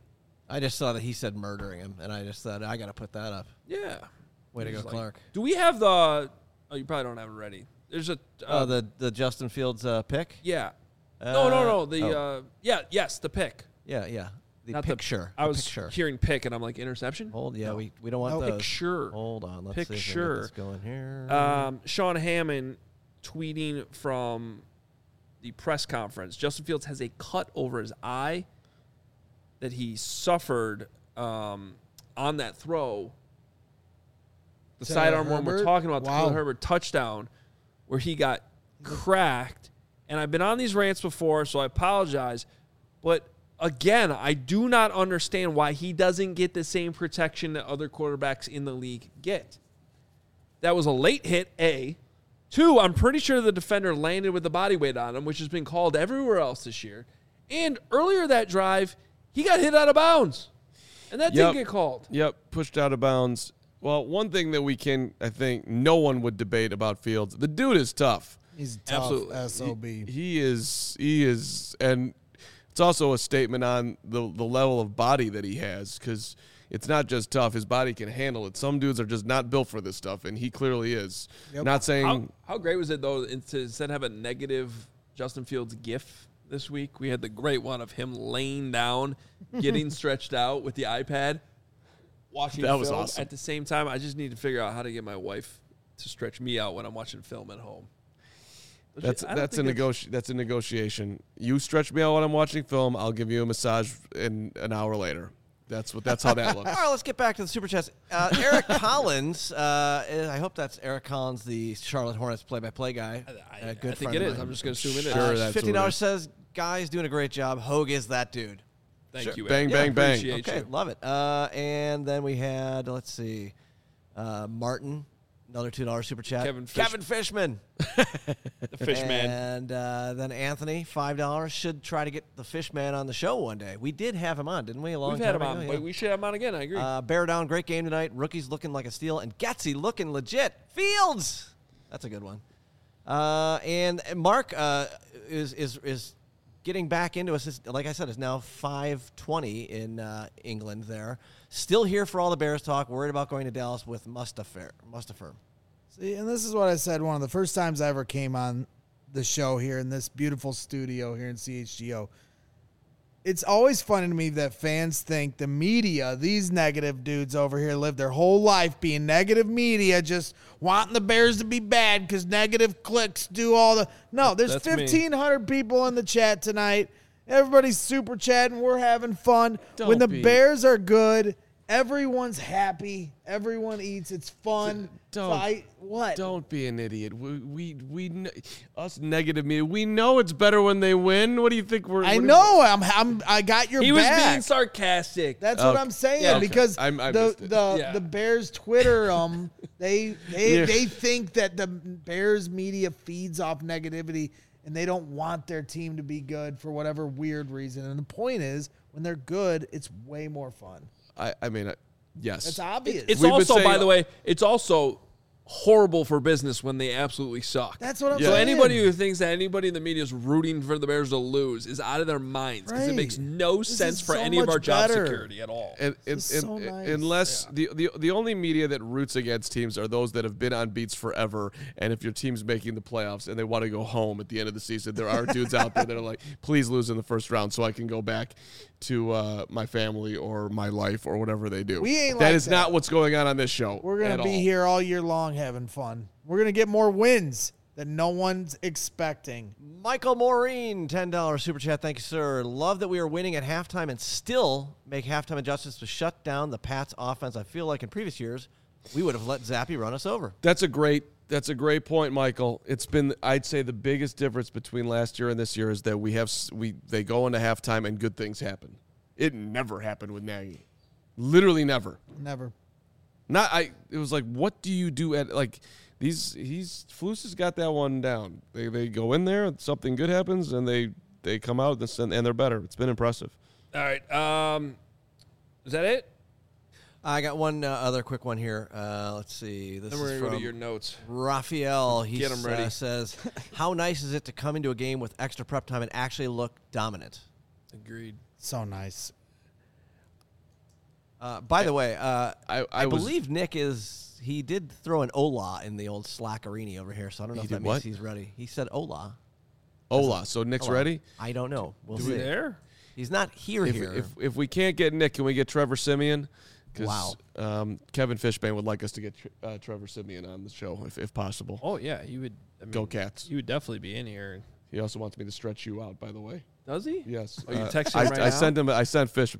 I just saw that he said murdering him, and I just thought, I got to put that up. Yeah. Way to go, Just like- Clark. Do we have the? Oh, you probably don't have it ready. There's a. The Justin Fields pick? Yeah. No. oh. Yes, the pick. Yeah. The Not picture. I The was picture. hearing pick, and I'm like interception. We don't want those. Picture. Hold on. Let's see if we can Picture. get this going here. Sean Hammond tweeting from the press conference. Justin Fields has a cut over his eye that he suffered on that throw. The To sidearm one we're Herbert? talking about, the Wow. Khalil Herbert touchdown, where he got cracked. And I've been on these rants before, so I apologize. But again, I do not understand why he doesn't get the same protection that other quarterbacks in the league get. That was a late hit, A. 2, I'm pretty sure the defender landed with the body weight on him, which has been called everywhere else this year. And earlier that drive, he got hit out of bounds. And that didn't get called. Yep, pushed out of bounds. Well, one thing that I think no one would debate about Fields, the dude is tough. He's tough. Absolutely. SOB. He is, and it's also a statement on the level of body that he has, because it's not just tough. His body can handle it. Some dudes are just not built for this stuff, and he clearly is. Yep. Not saying How great was it, though, to instead of have a negative Justin Fields gif this week, we had the great one of him laying down, getting stretched out with the iPad, watching That film was awesome. at the same time. I just need to figure out how to get my wife to stretch me out when I'm watching film at home. that's I don't think that's a negotiation. You stretch me out while I'm watching film, I'll give you a massage in an hour later. That's how that looks. All right, let's get back to the Super Chats. Eric Collins, I hope that's Eric Collins, the Charlotte Hornets play-by-play guy. I Good think friend it of is. mine. I'm just going to assume it is. Sure, that's what it $50 is. says, guys doing a great job. Hogue is that dude. Thank you. Bang, Eric. bang, bang. Appreciate Okay, you. love it. And then we had, let's see, Martin, another $2 Super Chat. Kevin Fishman. The fish man. And then Anthony, $5. Should try to get the Fishman on the show one day. We did have him on, didn't we? A long We've time had him ago? on. Yeah. But we should have him on again. I agree. Bear down, great game tonight. Rookies looking like a steal, and Getsy looking legit. Fields, that's a good one. And Mark is getting back into us. Like I said, it's now 5:20 in England. There, still here for all the Bears talk. Worried about going to Dallas with Mustafa. See, and this is what I said one of the first times I ever came on the show here in this beautiful studio here in CHGO. It's always funny to me that fans think the media, these negative dudes over here, live their whole life being negative media, just wanting the Bears to be bad because negative clicks do all the... No, there's That's me. 1,500 people in the chat tonight. Everybody's super chatting. We're having fun. Don't When the be. Bears are good, everyone's happy. Everyone eats. It's fun. Don't- What? Don't be an idiot. Us negative media. We know it's better when they win. What do you think we're? I what know. I got your he was back. being sarcastic. That's what Okay. I'm saying Yeah, okay. because I missed it. the Bears Twitter they Yeah. think that the Bears media feeds off negativity and they don't want their team to be good for whatever weird reason. And the point is, when they're good, it's way more fun. I mean, yes. It's obvious. It's We've been also, saying- by the way, it's also horrible for business when they absolutely suck. That's what I'm Yeah. So saying. anybody who thinks that anybody in the media is rooting for the Bears to lose is out of their minds because it Right. makes no This sense is for so any of much our job better. security at all. This is so nice. Unless the only media that roots against teams are those that have been on beats forever, and if your team's making the playoffs and they want to go home at the end of the season, there are dudes out there that are like, please lose in the first round so I can go back to my family or my life or whatever they do. We ain't That like is that. not what's going on this show. We're going at to be all. here all year long having fun. We're going to get more wins that no one's expecting. Michael Maureen, $10 Super Chat. Thank you, sir. Love that we are winning at halftime and still make halftime adjustments to shut down the Pats offense. I feel like in previous years, we would have let Zappy run us over. That's a great point, Michael. It's been, I'd say, the biggest difference between last year and this year is that they go into halftime and good things happen. It never happened with Nagy. Literally never. Never. It was like, what do you do at like Flus has got that one down. They go in there, something good happens, and they come out and they're better. It's been impressive. All right. Is that it? I got one other quick one here. Let's see. This Then we're is going to go from to your notes. Raphael. He Get 'em ready. says, how nice is it to come into a game with extra prep time and actually look dominant? Agreed. So nice. By the way, I believe Nick he did throw an Ola in the old Slackerini over here, so I don't know if that means he's ready. He said Ola. Ola. So Nick's ready? I don't know. We'll Is see. he there? He's not here. If we can't get Nick, can we get Trevor Simeon? Wow. Kevin Fishbane would like us to get Trevor Simeon on the show if possible. Oh yeah, you would. Go Cats. You would definitely be in here. He also wants me to stretch you out, by the way. Does he? Yes. Oh, you texting him right I now? sent him. I sent Fish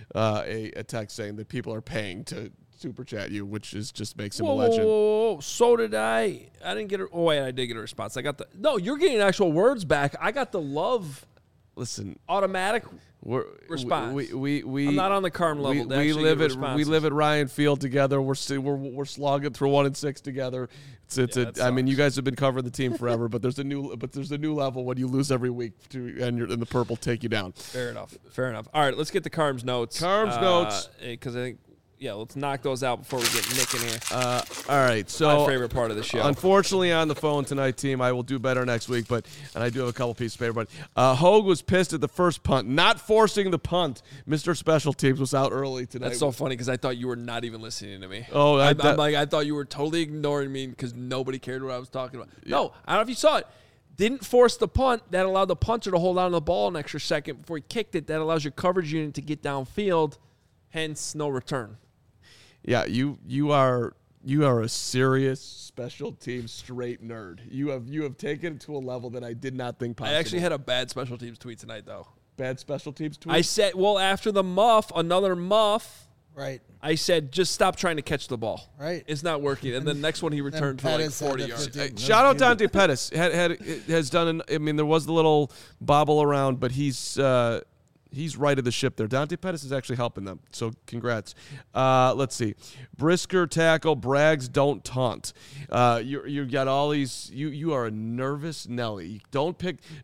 a text saying that people are paying to super chat you, which just makes him a legend. Whoa. So did I. I didn't get a. Oh wait, I did get a response. I got the. No, you're getting actual words back. I got the love. Listen, automatic response. I'm not on the Carm level. We live at Ryan Field together. We're slogging through 1-6 together. I mean, you guys have been covering the team forever, but there's a new level when you lose every week and the purple take you down. Fair enough. All right, let's get to Carm's notes. Notes, because I think. Yeah, let's knock those out before we get Nick in here. All right, so my favorite part of the show. Unfortunately, on the phone tonight, team. I will do better next week, and I do have a couple pieces of paper. But Hogue was pissed at the first punt, not forcing the punt. Mr. Special Teams was out early tonight. That's so funny because I thought you were not even listening to me. Oh, I thought you were totally ignoring me because nobody cared what I was talking about. Yeah. No, I don't know if you saw it. Didn't force the punt. That allowed the punter to hold on to the ball an extra second before he kicked it. That allows your coverage unit to get downfield. Hence, no return. Yeah, you are a serious special teams straight nerd. You have taken it to a level that I did not think possible. I actually had a bad special teams tweet tonight, though. Bad special teams tweet? I said, after the another muff. Right. I said, just stop trying to catch the ball. Right. It's not working. And the next one he returned for like 40 yards. Shout out Dante Pettis. Has done. There was the little bobble around, but he's right of the ship there. Dante Pettis is actually helping them, so congrats. Let's see. Brisker tackle, Braggs don't taunt. You got all these. You are a nervous Nelly. Don't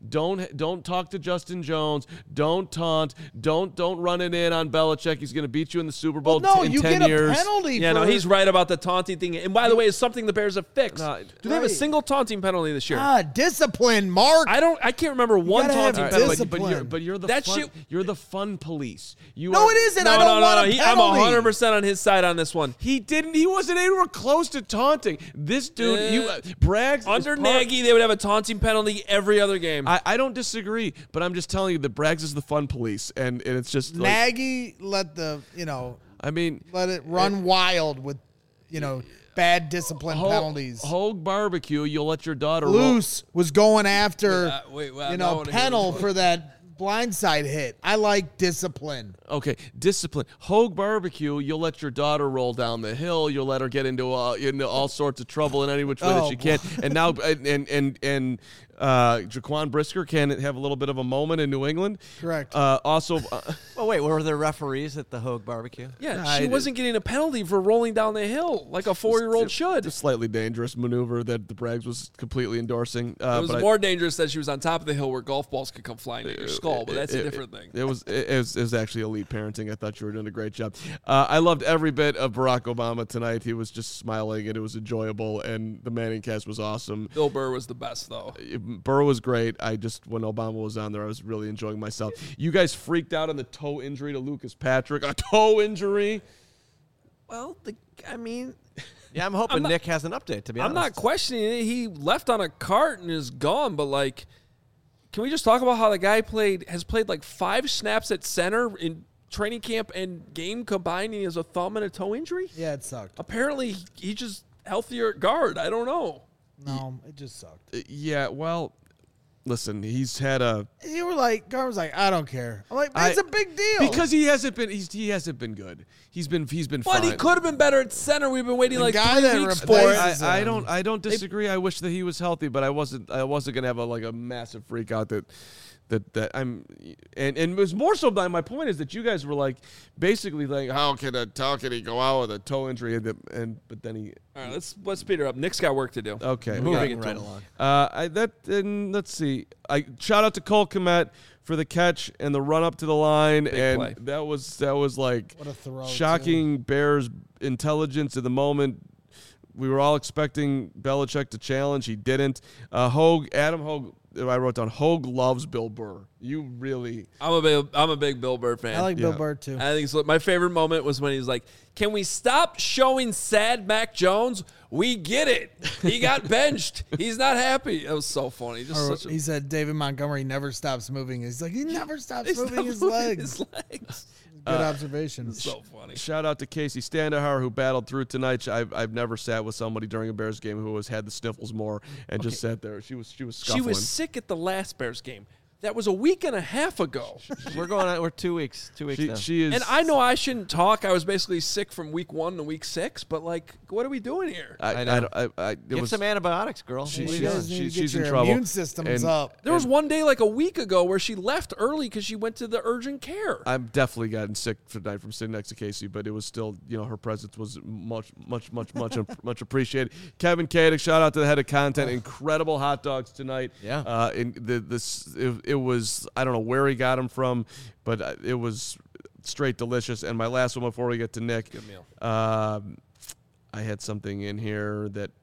talk to Justin Jones. Don't taunt. Don't run it in on Belichick. He's going to beat you in the Super Bowl in 10 years. You get a penalty. Yeah, no, he's right about the taunting thing. And by the way, it's something the Bears have fixed. Do they have a single taunting penalty this year? Discipline, Mark. I can't remember one taunting penalty. But you're the that fun, shit. You're the fun police. It isn't. I don't want a penalty. I'm 100% on his side on this one. He didn't. He wasn't anywhere close to taunting. This dude, Braggs. Under Nagy, they would have a taunting penalty every other game. I don't disagree, but I'm just telling you that Braggs is the fun police, and it's just like, Nagy let let it run wild with, bad discipline penalties. Hogue barbecue. You'll let your daughter Luce was going after Pennell for that blindside hit. I like discipline. Okay, discipline. Hogue barbecue. You'll let your daughter roll down the hill. You'll let her get into all sorts of trouble in any which way that she can. And now Jaquan Brisker can have a little bit of a moment in New England. Correct. Also, wait, were there referees at the Hogue barbecue? Yeah, she wasn't getting a penalty for rolling down the hill like a 4-year-old should. A slightly dangerous maneuver that the Braggs was completely endorsing. It was more dangerous that she was on top of the hill where golf balls could come flying at your skull, but that's a different thing. It was actually elite parenting. I thought you were doing a great job. I loved every bit of Barack Obama tonight. He was just smiling, and it was enjoyable, and the Manning cast was awesome. Bill Burr was the best, though. Burr was great. When Obama was on there, I was really enjoying myself. You guys freaked out on the toe injury to Lucas Patrick. A toe injury? Well, yeah, I'm hoping Nick has an update, to be honest. I'm not questioning it. He left on a cart and is gone, but, can we just talk about how the guy has played 5 snaps at center in training camp and game combined, and he has a thumb and a toe injury? Yeah, it sucked. Apparently, he's just healthier at guard. I don't know. No, it just sucked. Yeah, well, listen, he's had a. You were Gar was like, I don't care. I'm like, it's a big deal because he hasn't been. He hasn't been good. He's been fine. But he could have been better at center. We've been waiting 3 weeks for it. I don't disagree. I wish that he was healthy, but I wasn't gonna have a massive freak out that I'm and it was more so my point is that you guys were basically how can he go out with a toe injury but then he. All right, let's speed her up. Nick's got work to do. Okay, moving right along. Let's see. I shout out to Cole Kmet for the catch and the run up to the line, Big play. that was what a throw, shocking too. Bears intelligence in the moment. We were all expecting Belichick to challenge. He didn't. Adam Hogue I wrote down Hogue loves Bill Burr. You really. I'm a big Bill Burr fan. I like Bill Burr too. I think so. My favorite moment was when he was like, "Can we stop showing sad Mac Jones? We get it. He got benched. He's not happy." It was so funny. He said David Montgomery never stops moving. He's like, he never stops moving his legs. Good observation. So funny. Shout out to Casey Standahar, who battled through tonight. I've never sat with somebody during a Bears game who has had the sniffles more and just sat there. She was scuffling. She was sick at the last Bears game. That was a week and a half ago. We're 2 weeks. 2 weeks now. She is. And I know I shouldn't talk. I was basically sick from week 1 to week 6. But like, what are we doing here? I know. Get some antibiotics, girl. She's in trouble. Immune system's up. There was one day like a week ago where she left early because she went to the urgent care. I've definitely gotten sick tonight from sitting next to Casey, but it was still, her presence was much appreciated. Kevin Kadick, shout out to the head of content. Incredible hot dogs tonight. Yeah. It was, I don't know where he got them from, but it was straight delicious. And my last one before we get to Nick. Good meal. I had something in here that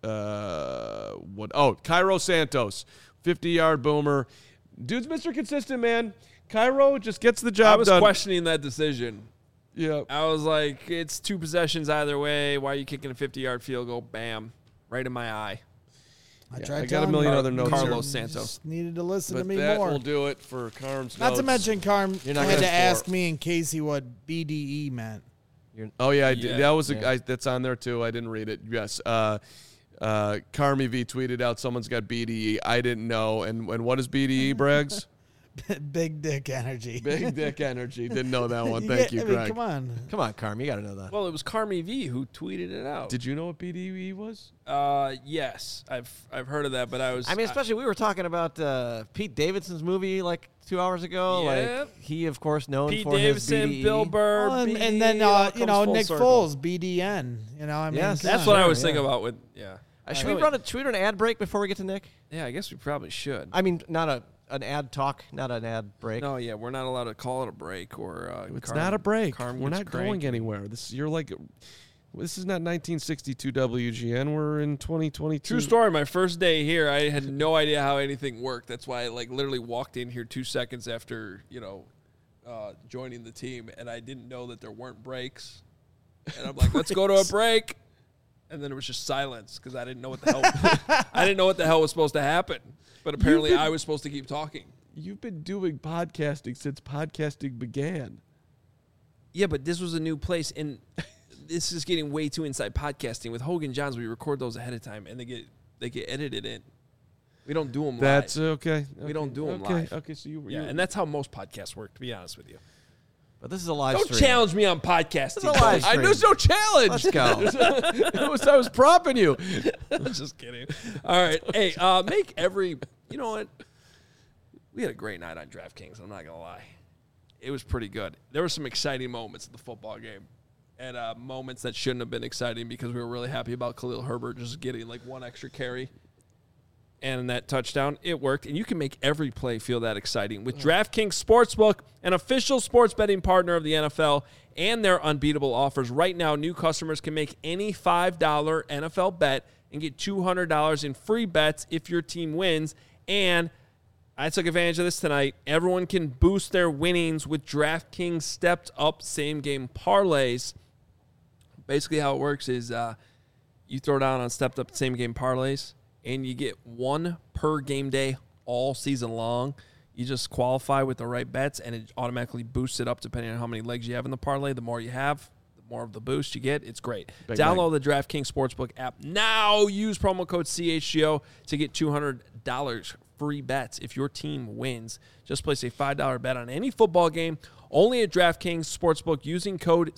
Cairo Santos, 50-yard boomer. Dude's Mr. Consistent, man. Cairo just gets the job done. I was questioning that decision. Yeah. I was like, it's 2 possessions either way. Why are you kicking a 50-yard field goal? Bam. Right in my eye. I got a million other notes. Carlos here. Santos. Just needed to listen But to me that more. will do it for Carm's Not notes. to mention, Carm You're not had gonna to ask score. me and Casey what BDE meant. Oh, yeah, I did. Yeah. That was that's on there, too. I didn't read it. Yes. Carmi V tweeted out someone's got BDE. I didn't know. And what is BDE, Braggs? Big dick energy. Big dick energy. Didn't know that one. Thank you, Greg. Come on. Come on, Carm. You got to know that. Well, it was Carmi V who tweeted it out. Did you know what BDE was? Yes, I've heard of that, but I was. I mean, especially we were talking about Pete Davidson's movie like 2 hours ago. Yeah. Like he, of course, known Pete for Davidson, his BDE. Bill Burr, Well, BDE, and then all comes full Nick circle. Foles, BDN. I mean, Yes. come That's on. what I was Yeah. thinking about with Should we run an ad break before we get to Nick? Yeah, I guess we probably should. I mean, not an ad talk, not an ad break. No, yeah, we're not allowed to call it a break or. It's not a break. Carm We're gets not going cranky. anywhere. This is not 1962 WGN. We're in 2022. True story. My first day here, I had no idea how anything worked. That's why I literally walked in here 2 seconds after joining the team, and I didn't know that there weren't breaks. And I'm like, let's go to a break. And then it was just silence because I didn't know what the hell. I didn't know what the hell was supposed to happen. But apparently, I was supposed to keep talking. You've been doing podcasting since podcasting began. Yeah, but this was a new place, and this is getting way too inside podcasting. With Hogan Johns, we record those ahead of time, and they get edited in. We don't do them live. That's okay. We don't do them okay. live. Okay, so you Yeah, and that's how most podcasts work, to be honest with you. But this is a live Don't stream. challenge me on podcasting. This is a live stream. there's no challenge. Let's go. I was propping you. I'm just kidding. All right. Hey, make every. You know what? We had a great night on DraftKings. I'm not gonna lie. It was pretty good. There were some exciting moments in the football game, and moments that shouldn't have been exciting because we were really happy about Khalil Herbert just getting like one extra carry. And that touchdown, it worked. And you can make every play feel that exciting with DraftKings Sportsbook, an official sports betting partner of the NFL, and their unbeatable offers. Right now, new customers can make any $5 NFL bet and get $200 in free bets if your team wins. And I took advantage of this tonight. Everyone can boost their winnings with DraftKings stepped-up same-game parlays. Basically how it works is you throw down on stepped-up same-game parlays, and you get one per game day all season long. You just qualify with the right bets, and it automatically boosts it up depending on how many legs you have in the parlay. The more you have, the more of the boost you get. It's great. Download the DraftKings Sportsbook app now. Use promo code CHGO to get $200 free bets if your team wins. Just place a $5 bet on any football game, only at DraftKings Sportsbook using code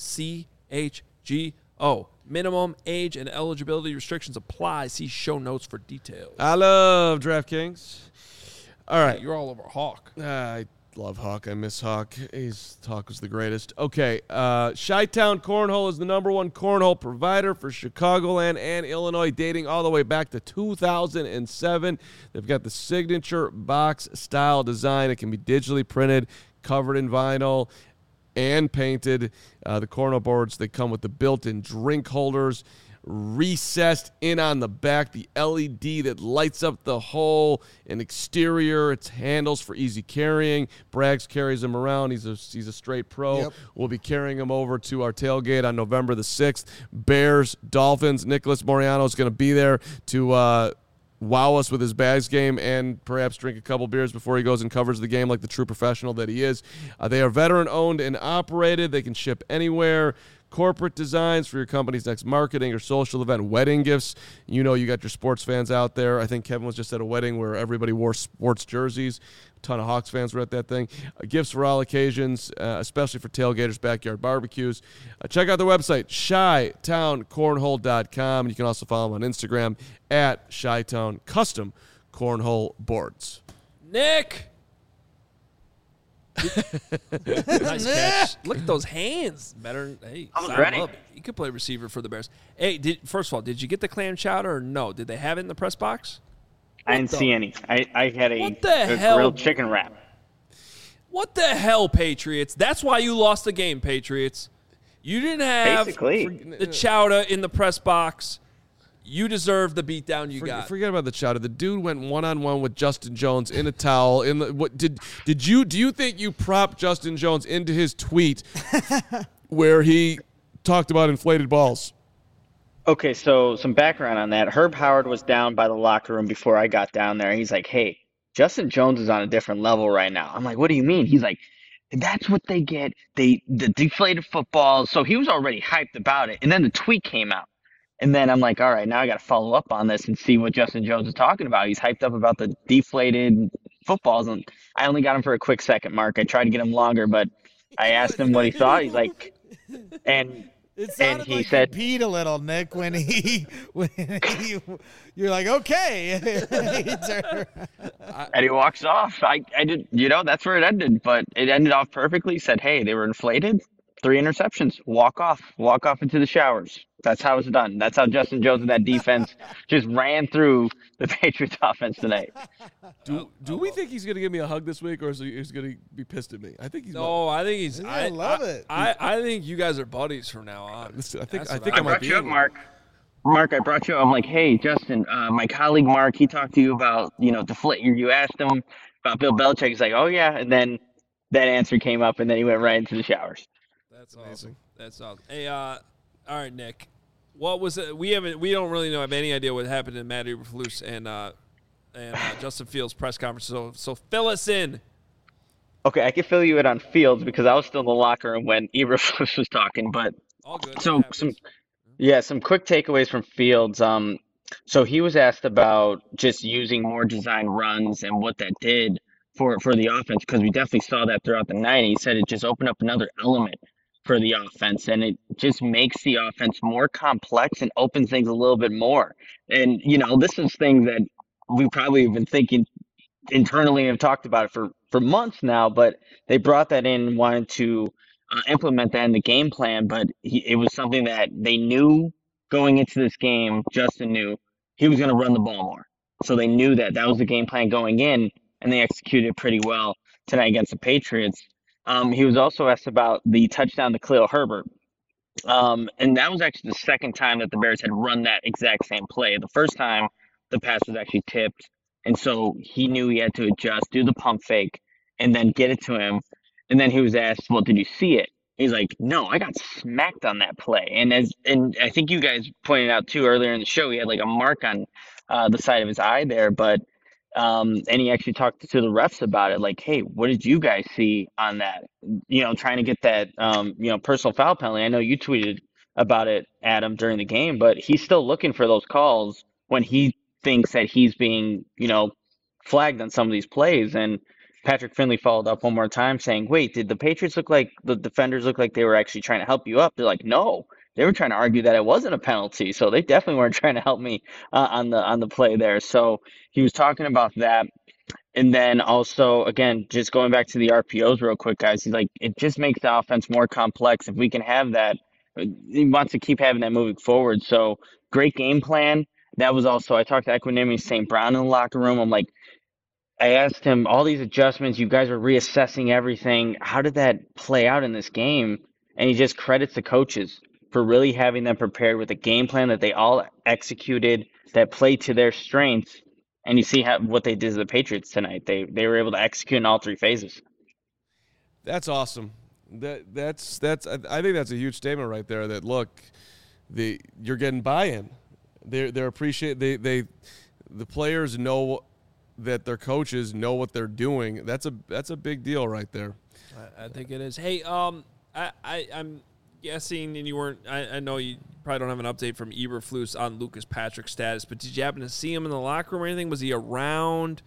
CHGO. Minimum age and eligibility restrictions apply. See show notes for details. I love DraftKings. All right. You're all over Hawk. I love Hawk. I miss Hawk. Hawk was the greatest. Okay. Chi-Town Cornhole is the #1 cornhole provider for Chicagoland and Illinois, dating all the way back to 2007. They've got the signature box style design. It can be digitally printed, covered in vinyl, and painted. The cornhole boards, they come with the built-in drink holders. recessed in on the back, the LED that lights up the hull and exterior. It's handles for easy carrying. Braggs carries him around. He's a straight pro. Yep. We'll be carrying him over to our tailgate on November the 6th. Bears, Dolphins. Nicholas Moriano is going to be there to wow us with his bags game and perhaps drink a couple beers before he goes and covers the game like the true professional that he is. They are veteran-owned and operated. They can ship anywhere. Corporate designs for your company's next marketing or social event, wedding gifts. You know you got your sports fans out there. I think Kevin was just at a wedding where everybody wore sports jerseys. A ton of Hawks fans were at that thing. Gifts for all occasions, especially for tailgaters, backyard barbecues. Check out their website, ChiTownCornhole.com. You can also follow them on Instagram at ChiTown Custom Cornhole Boards. Nick! Nice catch. Look at those hands. Better. Hey, I was sign ready. him up. You could play receiver for the Bears. Hey, first of all, did you get the clam chowder or no? Did they have it in the press box? I didn't see any. I had What the a hell? grilled chicken wrap. What the hell, Patriots? That's why you lost the game, Patriots. You didn't have Basically. the chowder in the press box. You deserve the beatdown you got. Forget about the chowder. The dude went one-on-one with Justin Jones in a towel. Do you think you propped Justin Jones into his tweet where he talked about inflated balls? Okay, so some background on that. Herb Howard was down by the locker room before I got down there. He's like, hey, Justin Jones is on a different level right now. I'm like, what do you mean? He's like, that's what they get. The deflated footballs. So he was already hyped about it. And then the tweet came out. And then I'm like, all right, now I got to follow up on this and see what Justin Jones is talking about. He's hyped up about the deflated footballs. And I only got him for a quick second, Mark. I tried to get him longer, but I asked him what he thought. He's like, and It sounded he like said- he peed a little, Nick, when you're like, okay. and he walks off. I did, that's where it ended. But it ended off perfectly. He said, hey, they were inflated. 3 interceptions. Walk off into the showers. That's how it's done. That's how Justin Jones and that defense just ran through the Patriots offense tonight. Do we think he's going to give me a hug this week, or is he going to be pissed at me? I think he's. No, I think he's. I love it. I think you guys are buddies from now on. I think I I might brought be. you up, Mark. Mark, I brought you up. I'm like, hey, Justin, my colleague Mark, he talked to you about, you asked him about Bill Belichick. He's like, oh, yeah. And then that answer came up, and then he went right into the showers. That's awesome. That's awesome. Hey, all right, Nick. What was it? We don't really have any idea what happened in Matt Eberflus and Justin Fields' press conference. So fill us in. Okay, I can fill you in on Fields because I was still in the locker room when Eberflus was talking. But All good. so That happens. some quick takeaways from Fields. So he was asked about just using more design runs and what that did for the offense, because we definitely saw that throughout the night. He said it just opened up another element for the offense, and it just makes the offense more complex and opens things a little bit more. And, this is things that we probably have been thinking internally and have talked about it for months now, but they brought that in and wanted to implement that in the game plan. But it was something that they knew going into this game. Justin knew he was going to run the ball more. So they knew that was the game plan going in, and they executed pretty well tonight against the Patriots. He was also asked about the touchdown to Khalil Herbert. And that was actually the second time that the Bears had run that exact same play. The first time, the pass was actually tipped. And so he knew he had to adjust, do the pump fake, and then get it to him. And then he was asked, well, did you see it? He's like, no, I got smacked on that play. And I think you guys pointed out too earlier in the show, he had like a mark on the side of his eye there. But and he actually talked to the refs about it, like, hey, what did you guys see on that? Trying to get that, personal foul penalty. I know you tweeted about it, Adam, during the game, but he's still looking for those calls when he thinks that he's being, flagged on some of these plays. And Patrick Finley followed up one more time saying, wait, did the Patriots the defenders look like they were actually trying to help you up? They're like, no. They were trying to argue that it wasn't a penalty, so they definitely weren't trying to help me on the play there. So he was talking about that, and then also again, just going back to the RPOs real quick, guys. He's like, it just makes the offense more complex if we can have that. He wants to keep having that moving forward. So great game plan. That was also, I talked to Equanimity St. Brown in the locker room. I'm like, I asked him all these adjustments. You guys are reassessing everything. How did that play out in this game? And he just credits the coaches. for really having them prepared with a game plan that they all executed, that played to their strengths. And you see what they did to the Patriots tonight. They were able to execute in all three phases. That's awesome. That's I think that's a huge statement right there. That look, you're getting buy-in. They're appreciate the players know that their coaches know what they're doing. That's a big deal right there. I think it is. Hey, I'm guessing, and you weren't. I know you probably don't have an update from Eberflus on Lucas Patrick's status, but did you happen to see him in the locker room or anything? Was he around?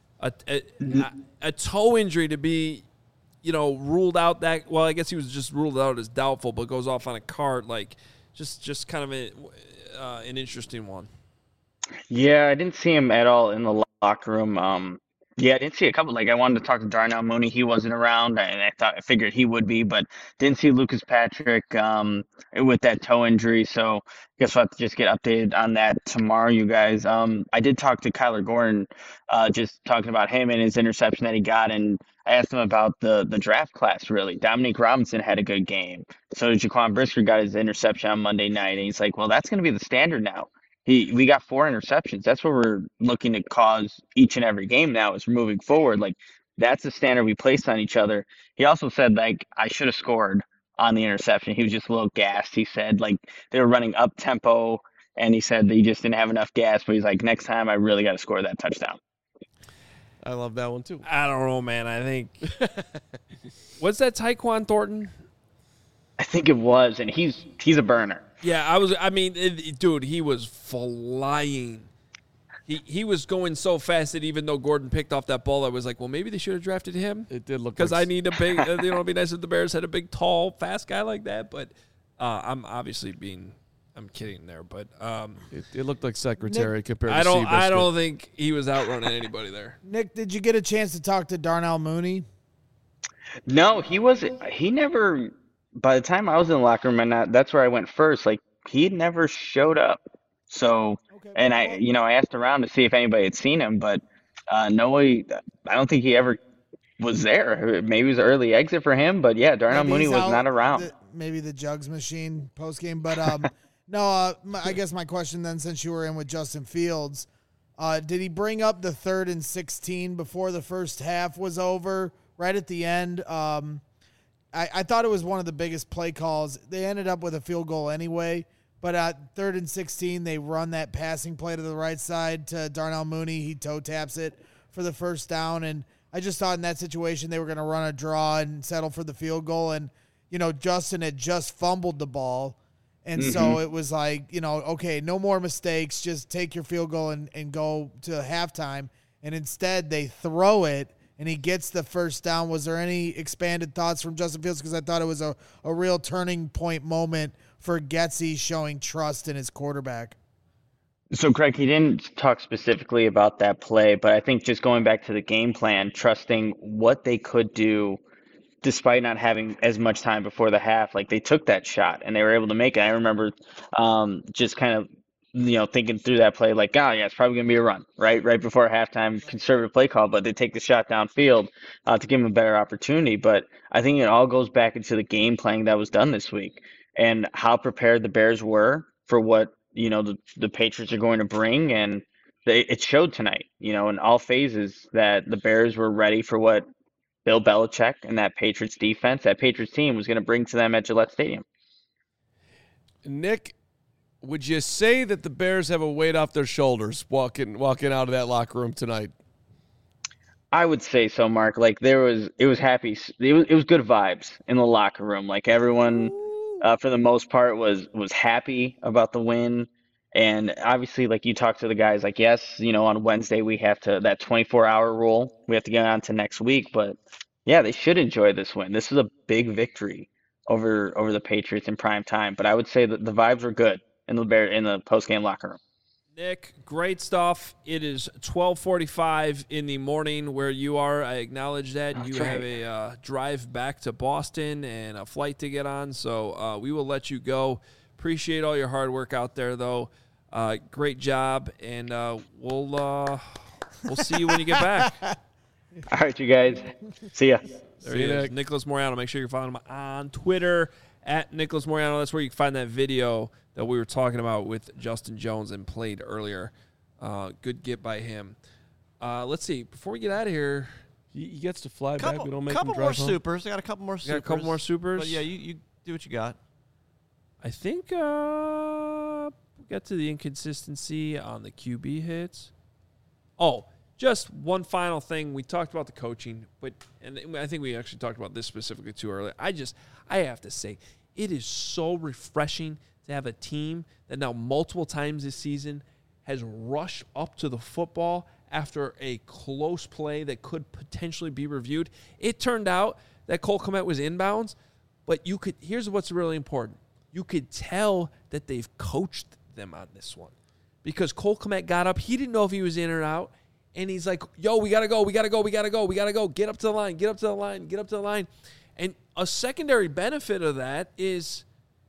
A toe injury to be, ruled out that. Well, I guess he was just ruled out as doubtful, but goes off on a cart. Like, just kind of an interesting one. Yeah, I didn't see him at all in the locker room. Yeah, I didn't see a couple. Like, I wanted to talk to Darnell Mooney. He wasn't around, and I figured he would be, but didn't see Lucas Patrick with that toe injury. So I guess we'll have to just get updated on that tomorrow, you guys. I did talk to Kyler Gordon, just talking about him and his interception that he got, and I asked him about the draft class, really. Dominique Robinson had a good game. So did Jaquan Brisker, got his interception on Monday night, and he's like, well, that's going to be the standard now. We got 4 interceptions. That's what we're looking to cause each and every game now as we're moving forward. Like, that's the standard we placed on each other. He also said, like, I should have scored on the interception. He was just a little gassed. He said, like, they were running up tempo, and he said that he just didn't have enough gas. But he's like, next time I really got to score that touchdown. I love that one too. I don't know, man. I think what's that, Tyquan Thornton? I think it was, and he's a burner. Yeah, dude, he was flying. He was going so fast that even though Gordon picked off that ball, I was like, well, maybe they should have drafted him. It did look because I need a big. It'd be nice if the Bears had a big, tall, fast guy like that. But I'm obviously I'm kidding there, but it looked like secretary Nick, compared to I Seabiscuit. don't think he was outrunning anybody there. Nick, did you get a chance to talk to Darnell Mooney? No, he never. By the time I was in the locker room, and that's where I went first. Like, he never showed up. So, and I asked around to see if anybody had seen him, but nobody. I don't think he ever was there. Maybe it was an early exit for him, but yeah, Darnell Mooney was not around. Maybe the Jugs machine post game, but no. I guess my question then, since you were in with Justin Fields, did he bring up the 3rd and 16 before the first half was over? Right at the end. I thought it was one of the biggest play calls. They ended up with a field goal anyway, but at 3rd and 16, they run that passing play to the right side to Darnell Mooney. He toe taps it for the first down, and I just thought in that situation they were going to run a draw and settle for the field goal, and Justin had just fumbled the ball, and so it was like, okay, no more mistakes, just take your field goal and go to halftime, and instead they throw it, and he gets the first down. Was there any expanded thoughts from Justin Fields? Because I thought it was a real turning point moment for Getsy showing trust in his quarterback. So, Craig, he didn't talk specifically about that play, but I think just going back to the game plan, trusting what they could do despite not having as much time before the half. Like, they took that shot, and they were able to make it. I remember just kind of thinking through that play, like, it's probably going to be a run, right before halftime, conservative play call, but they take the shot downfield to give them a better opportunity. But I think it all goes back into the game planning that was done this week and how prepared the Bears were for what, the Patriots are going to bring. And it showed tonight, in all phases that the Bears were ready for what Bill Belichick and that Patriots defense, that Patriots team was going to bring to them at Gillette Stadium. Nick, would you say that the Bears have a weight off their shoulders walking out of that locker room tonight? I would say so, Mark. Like, it was happy. It was good vibes in the locker room. Like, everyone, for the most part, was happy about the win. And obviously, like, you talk to the guys, like, yes, on Wednesday we have that 24-hour rule. We have to get on to next week. But yeah, they should enjoy this win. This is a big victory over the Patriots in prime time. But I would say that the vibes were good in the post-game locker room. Nick, great stuff. It is 12:45 in the morning where you are. I acknowledge that. That's you right. have a drive back to Boston and a flight to get on, so we will let you go. Appreciate all your hard work out there, though. Great job, and we'll see you when you get back. All right, you guys. See ya. There he is, Nicholas Moriano. Make sure you're following him on Twitter at Nicholas Moriano. That's where you can find that video that we were talking about with Justin Jones and played earlier. Good get by him. Let's see. Before we get out of here, He gets to fly back. We don't make him couple drive more home. supers. I got a couple more supers. got a couple more supers. But yeah, you do what you got. I think we'll get to the inconsistency on the QB hits. Oh, just one final thing. We talked about the coaching, and I think we actually talked about this specifically too earlier. I have to say, it is so refreshing to have a team that now multiple times this season has rushed up to the football after a close play that could potentially be reviewed. It turned out that Cole Kmet was inbounds, but here's what's really important. You could tell that they've coached them on this one because Cole Kmet got up. He didn't know if he was in or out, and he's like, yo, we got to go. Get up to the line. And a secondary benefit of that is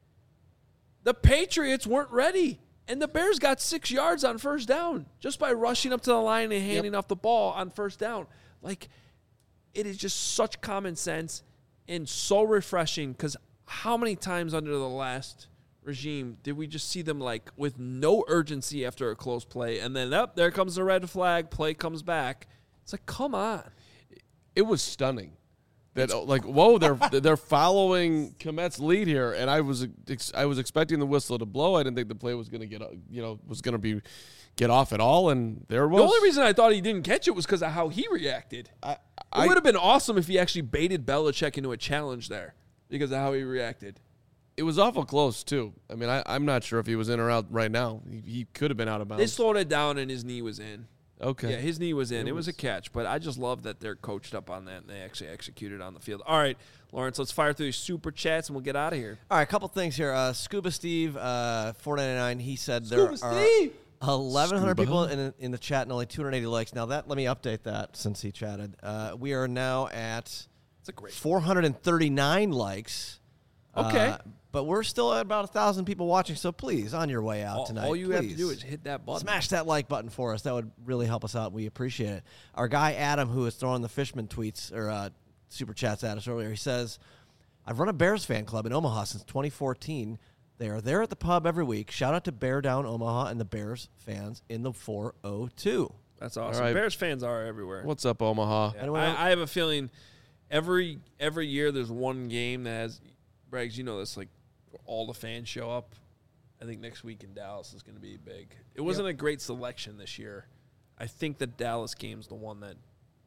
the Patriots weren't ready. And the Bears got 6 yards on first down just by rushing up to the line and handing off the ball on first down. Like, it is just such common sense and so refreshing because how many times under the last regime did we just see them, like, with no urgency after a close play and then, there comes the red flag, play comes back. It's like, come on. It was stunning. That like, whoa, they're following Kmet's lead here, and I was expecting the whistle to blow. I didn't think the play was going to get off at all, and there it was. The only reason I thought he didn't catch it was because of how he reacted. It would have been awesome if he actually baited Belichick into a challenge there because of how he reacted. It was awful close too. I mean, I'm not sure if he was in or out right now. He could have been out of bounds. They slowed it down, and his knee was in. Okay. Yeah, his knee was in. It was a catch, but I just love that they're coached up on that and they actually executed on the field. All right, Lawrence, let's fire through these super chats and we'll get out of here. All right, a couple things here. Scuba Steve, $4.99. He said there are 1,100 people in the chat and only 280 likes. Now let me update that since he chatted. We are now at 439 likes. Okay. But we're still at about 1,000 people watching, so please, on your way out tonight, all you have to do is hit that button. Smash that like button for us. That would really help us out. We appreciate it. Our guy, Adam, who was throwing the Fishman tweets or super chats at us earlier, he says, I've run a Bears fan club in Omaha since 2014. They are there at the pub every week. Shout out to Bear Down Omaha and the Bears fans in the 402. That's awesome. All right. Bears fans are everywhere. What's up, Omaha? Yeah. I have a feeling every year there's one game that has, Braggs, you know this, like, all the fans show up. I think next week in Dallas is going to be big. It wasn't a great selection this year. I think the Dallas game's the one that...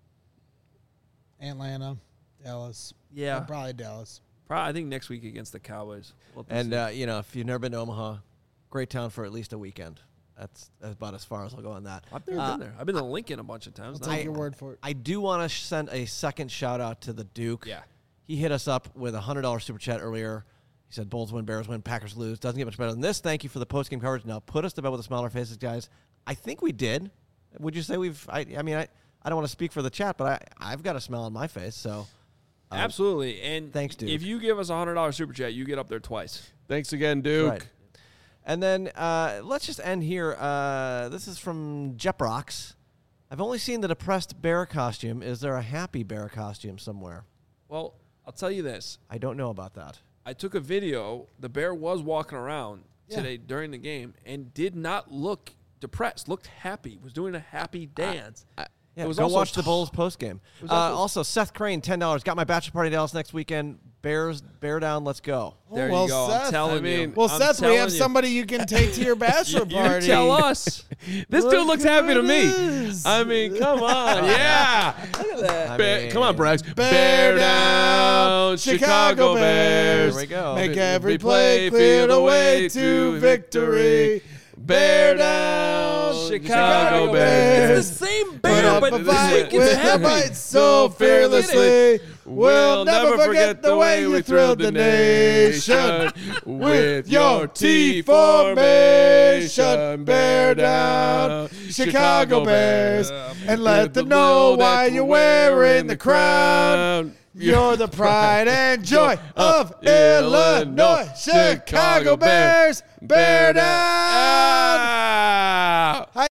Atlanta, Dallas. Yeah. Probably Dallas. I think next week against the Cowboys. And, if you've never been to Omaha, great town for at least a weekend. That's about as far as I'll go on that. I've never been there. I've been to Lincoln a bunch of times. I'll take your word for it. I do want to send a second shout-out to the Duke. Yeah. He hit us up with a $100 super chat earlier. He said, Bulls win, Bears win, Packers lose. Doesn't get much better than this. Thank you for the post-game coverage. Now put us to bed with a smile on our faces, guys. I think we did. Would you say we've – I don't want to speak for the chat, but I've got a smile on my face. So absolutely. And thanks, Duke. If you give us a $100 super chat, you get up there twice. Thanks again, Duke. Right. And then let's just end here. This is from Jeprox. I've only seen the depressed bear costume. Is there a happy bear costume somewhere? Well, I'll tell you this. I don't know about that. I took a video. The bear was walking around today during the game and did not look depressed. Looked happy. Was doing a happy dance. It was go watch the Bulls post game. Also, Seth Crane, $10. Got my bachelor party in Dallas next weekend. Bear down. Let's go. There you go. Seth, I'm telling you. Well, Seth, we have somebody you can take to your bachelor party. You tell us. This dude looks happy to me. I mean, come on. Yeah. Look at that. Come on, Braggs. Bear down, Chicago Bears. There we go. Make every play clear the way to victory. Bear down, Chicago Bears. It's the same bear, but this week with it's happy. fight so fearlessly. We'll never forget the way you thrilled the nation with your T formation. Bear down, Chicago Bears, and let them know why you're wearing the crown. You're the pride and joy of Illinois. Chicago Bears, bear down.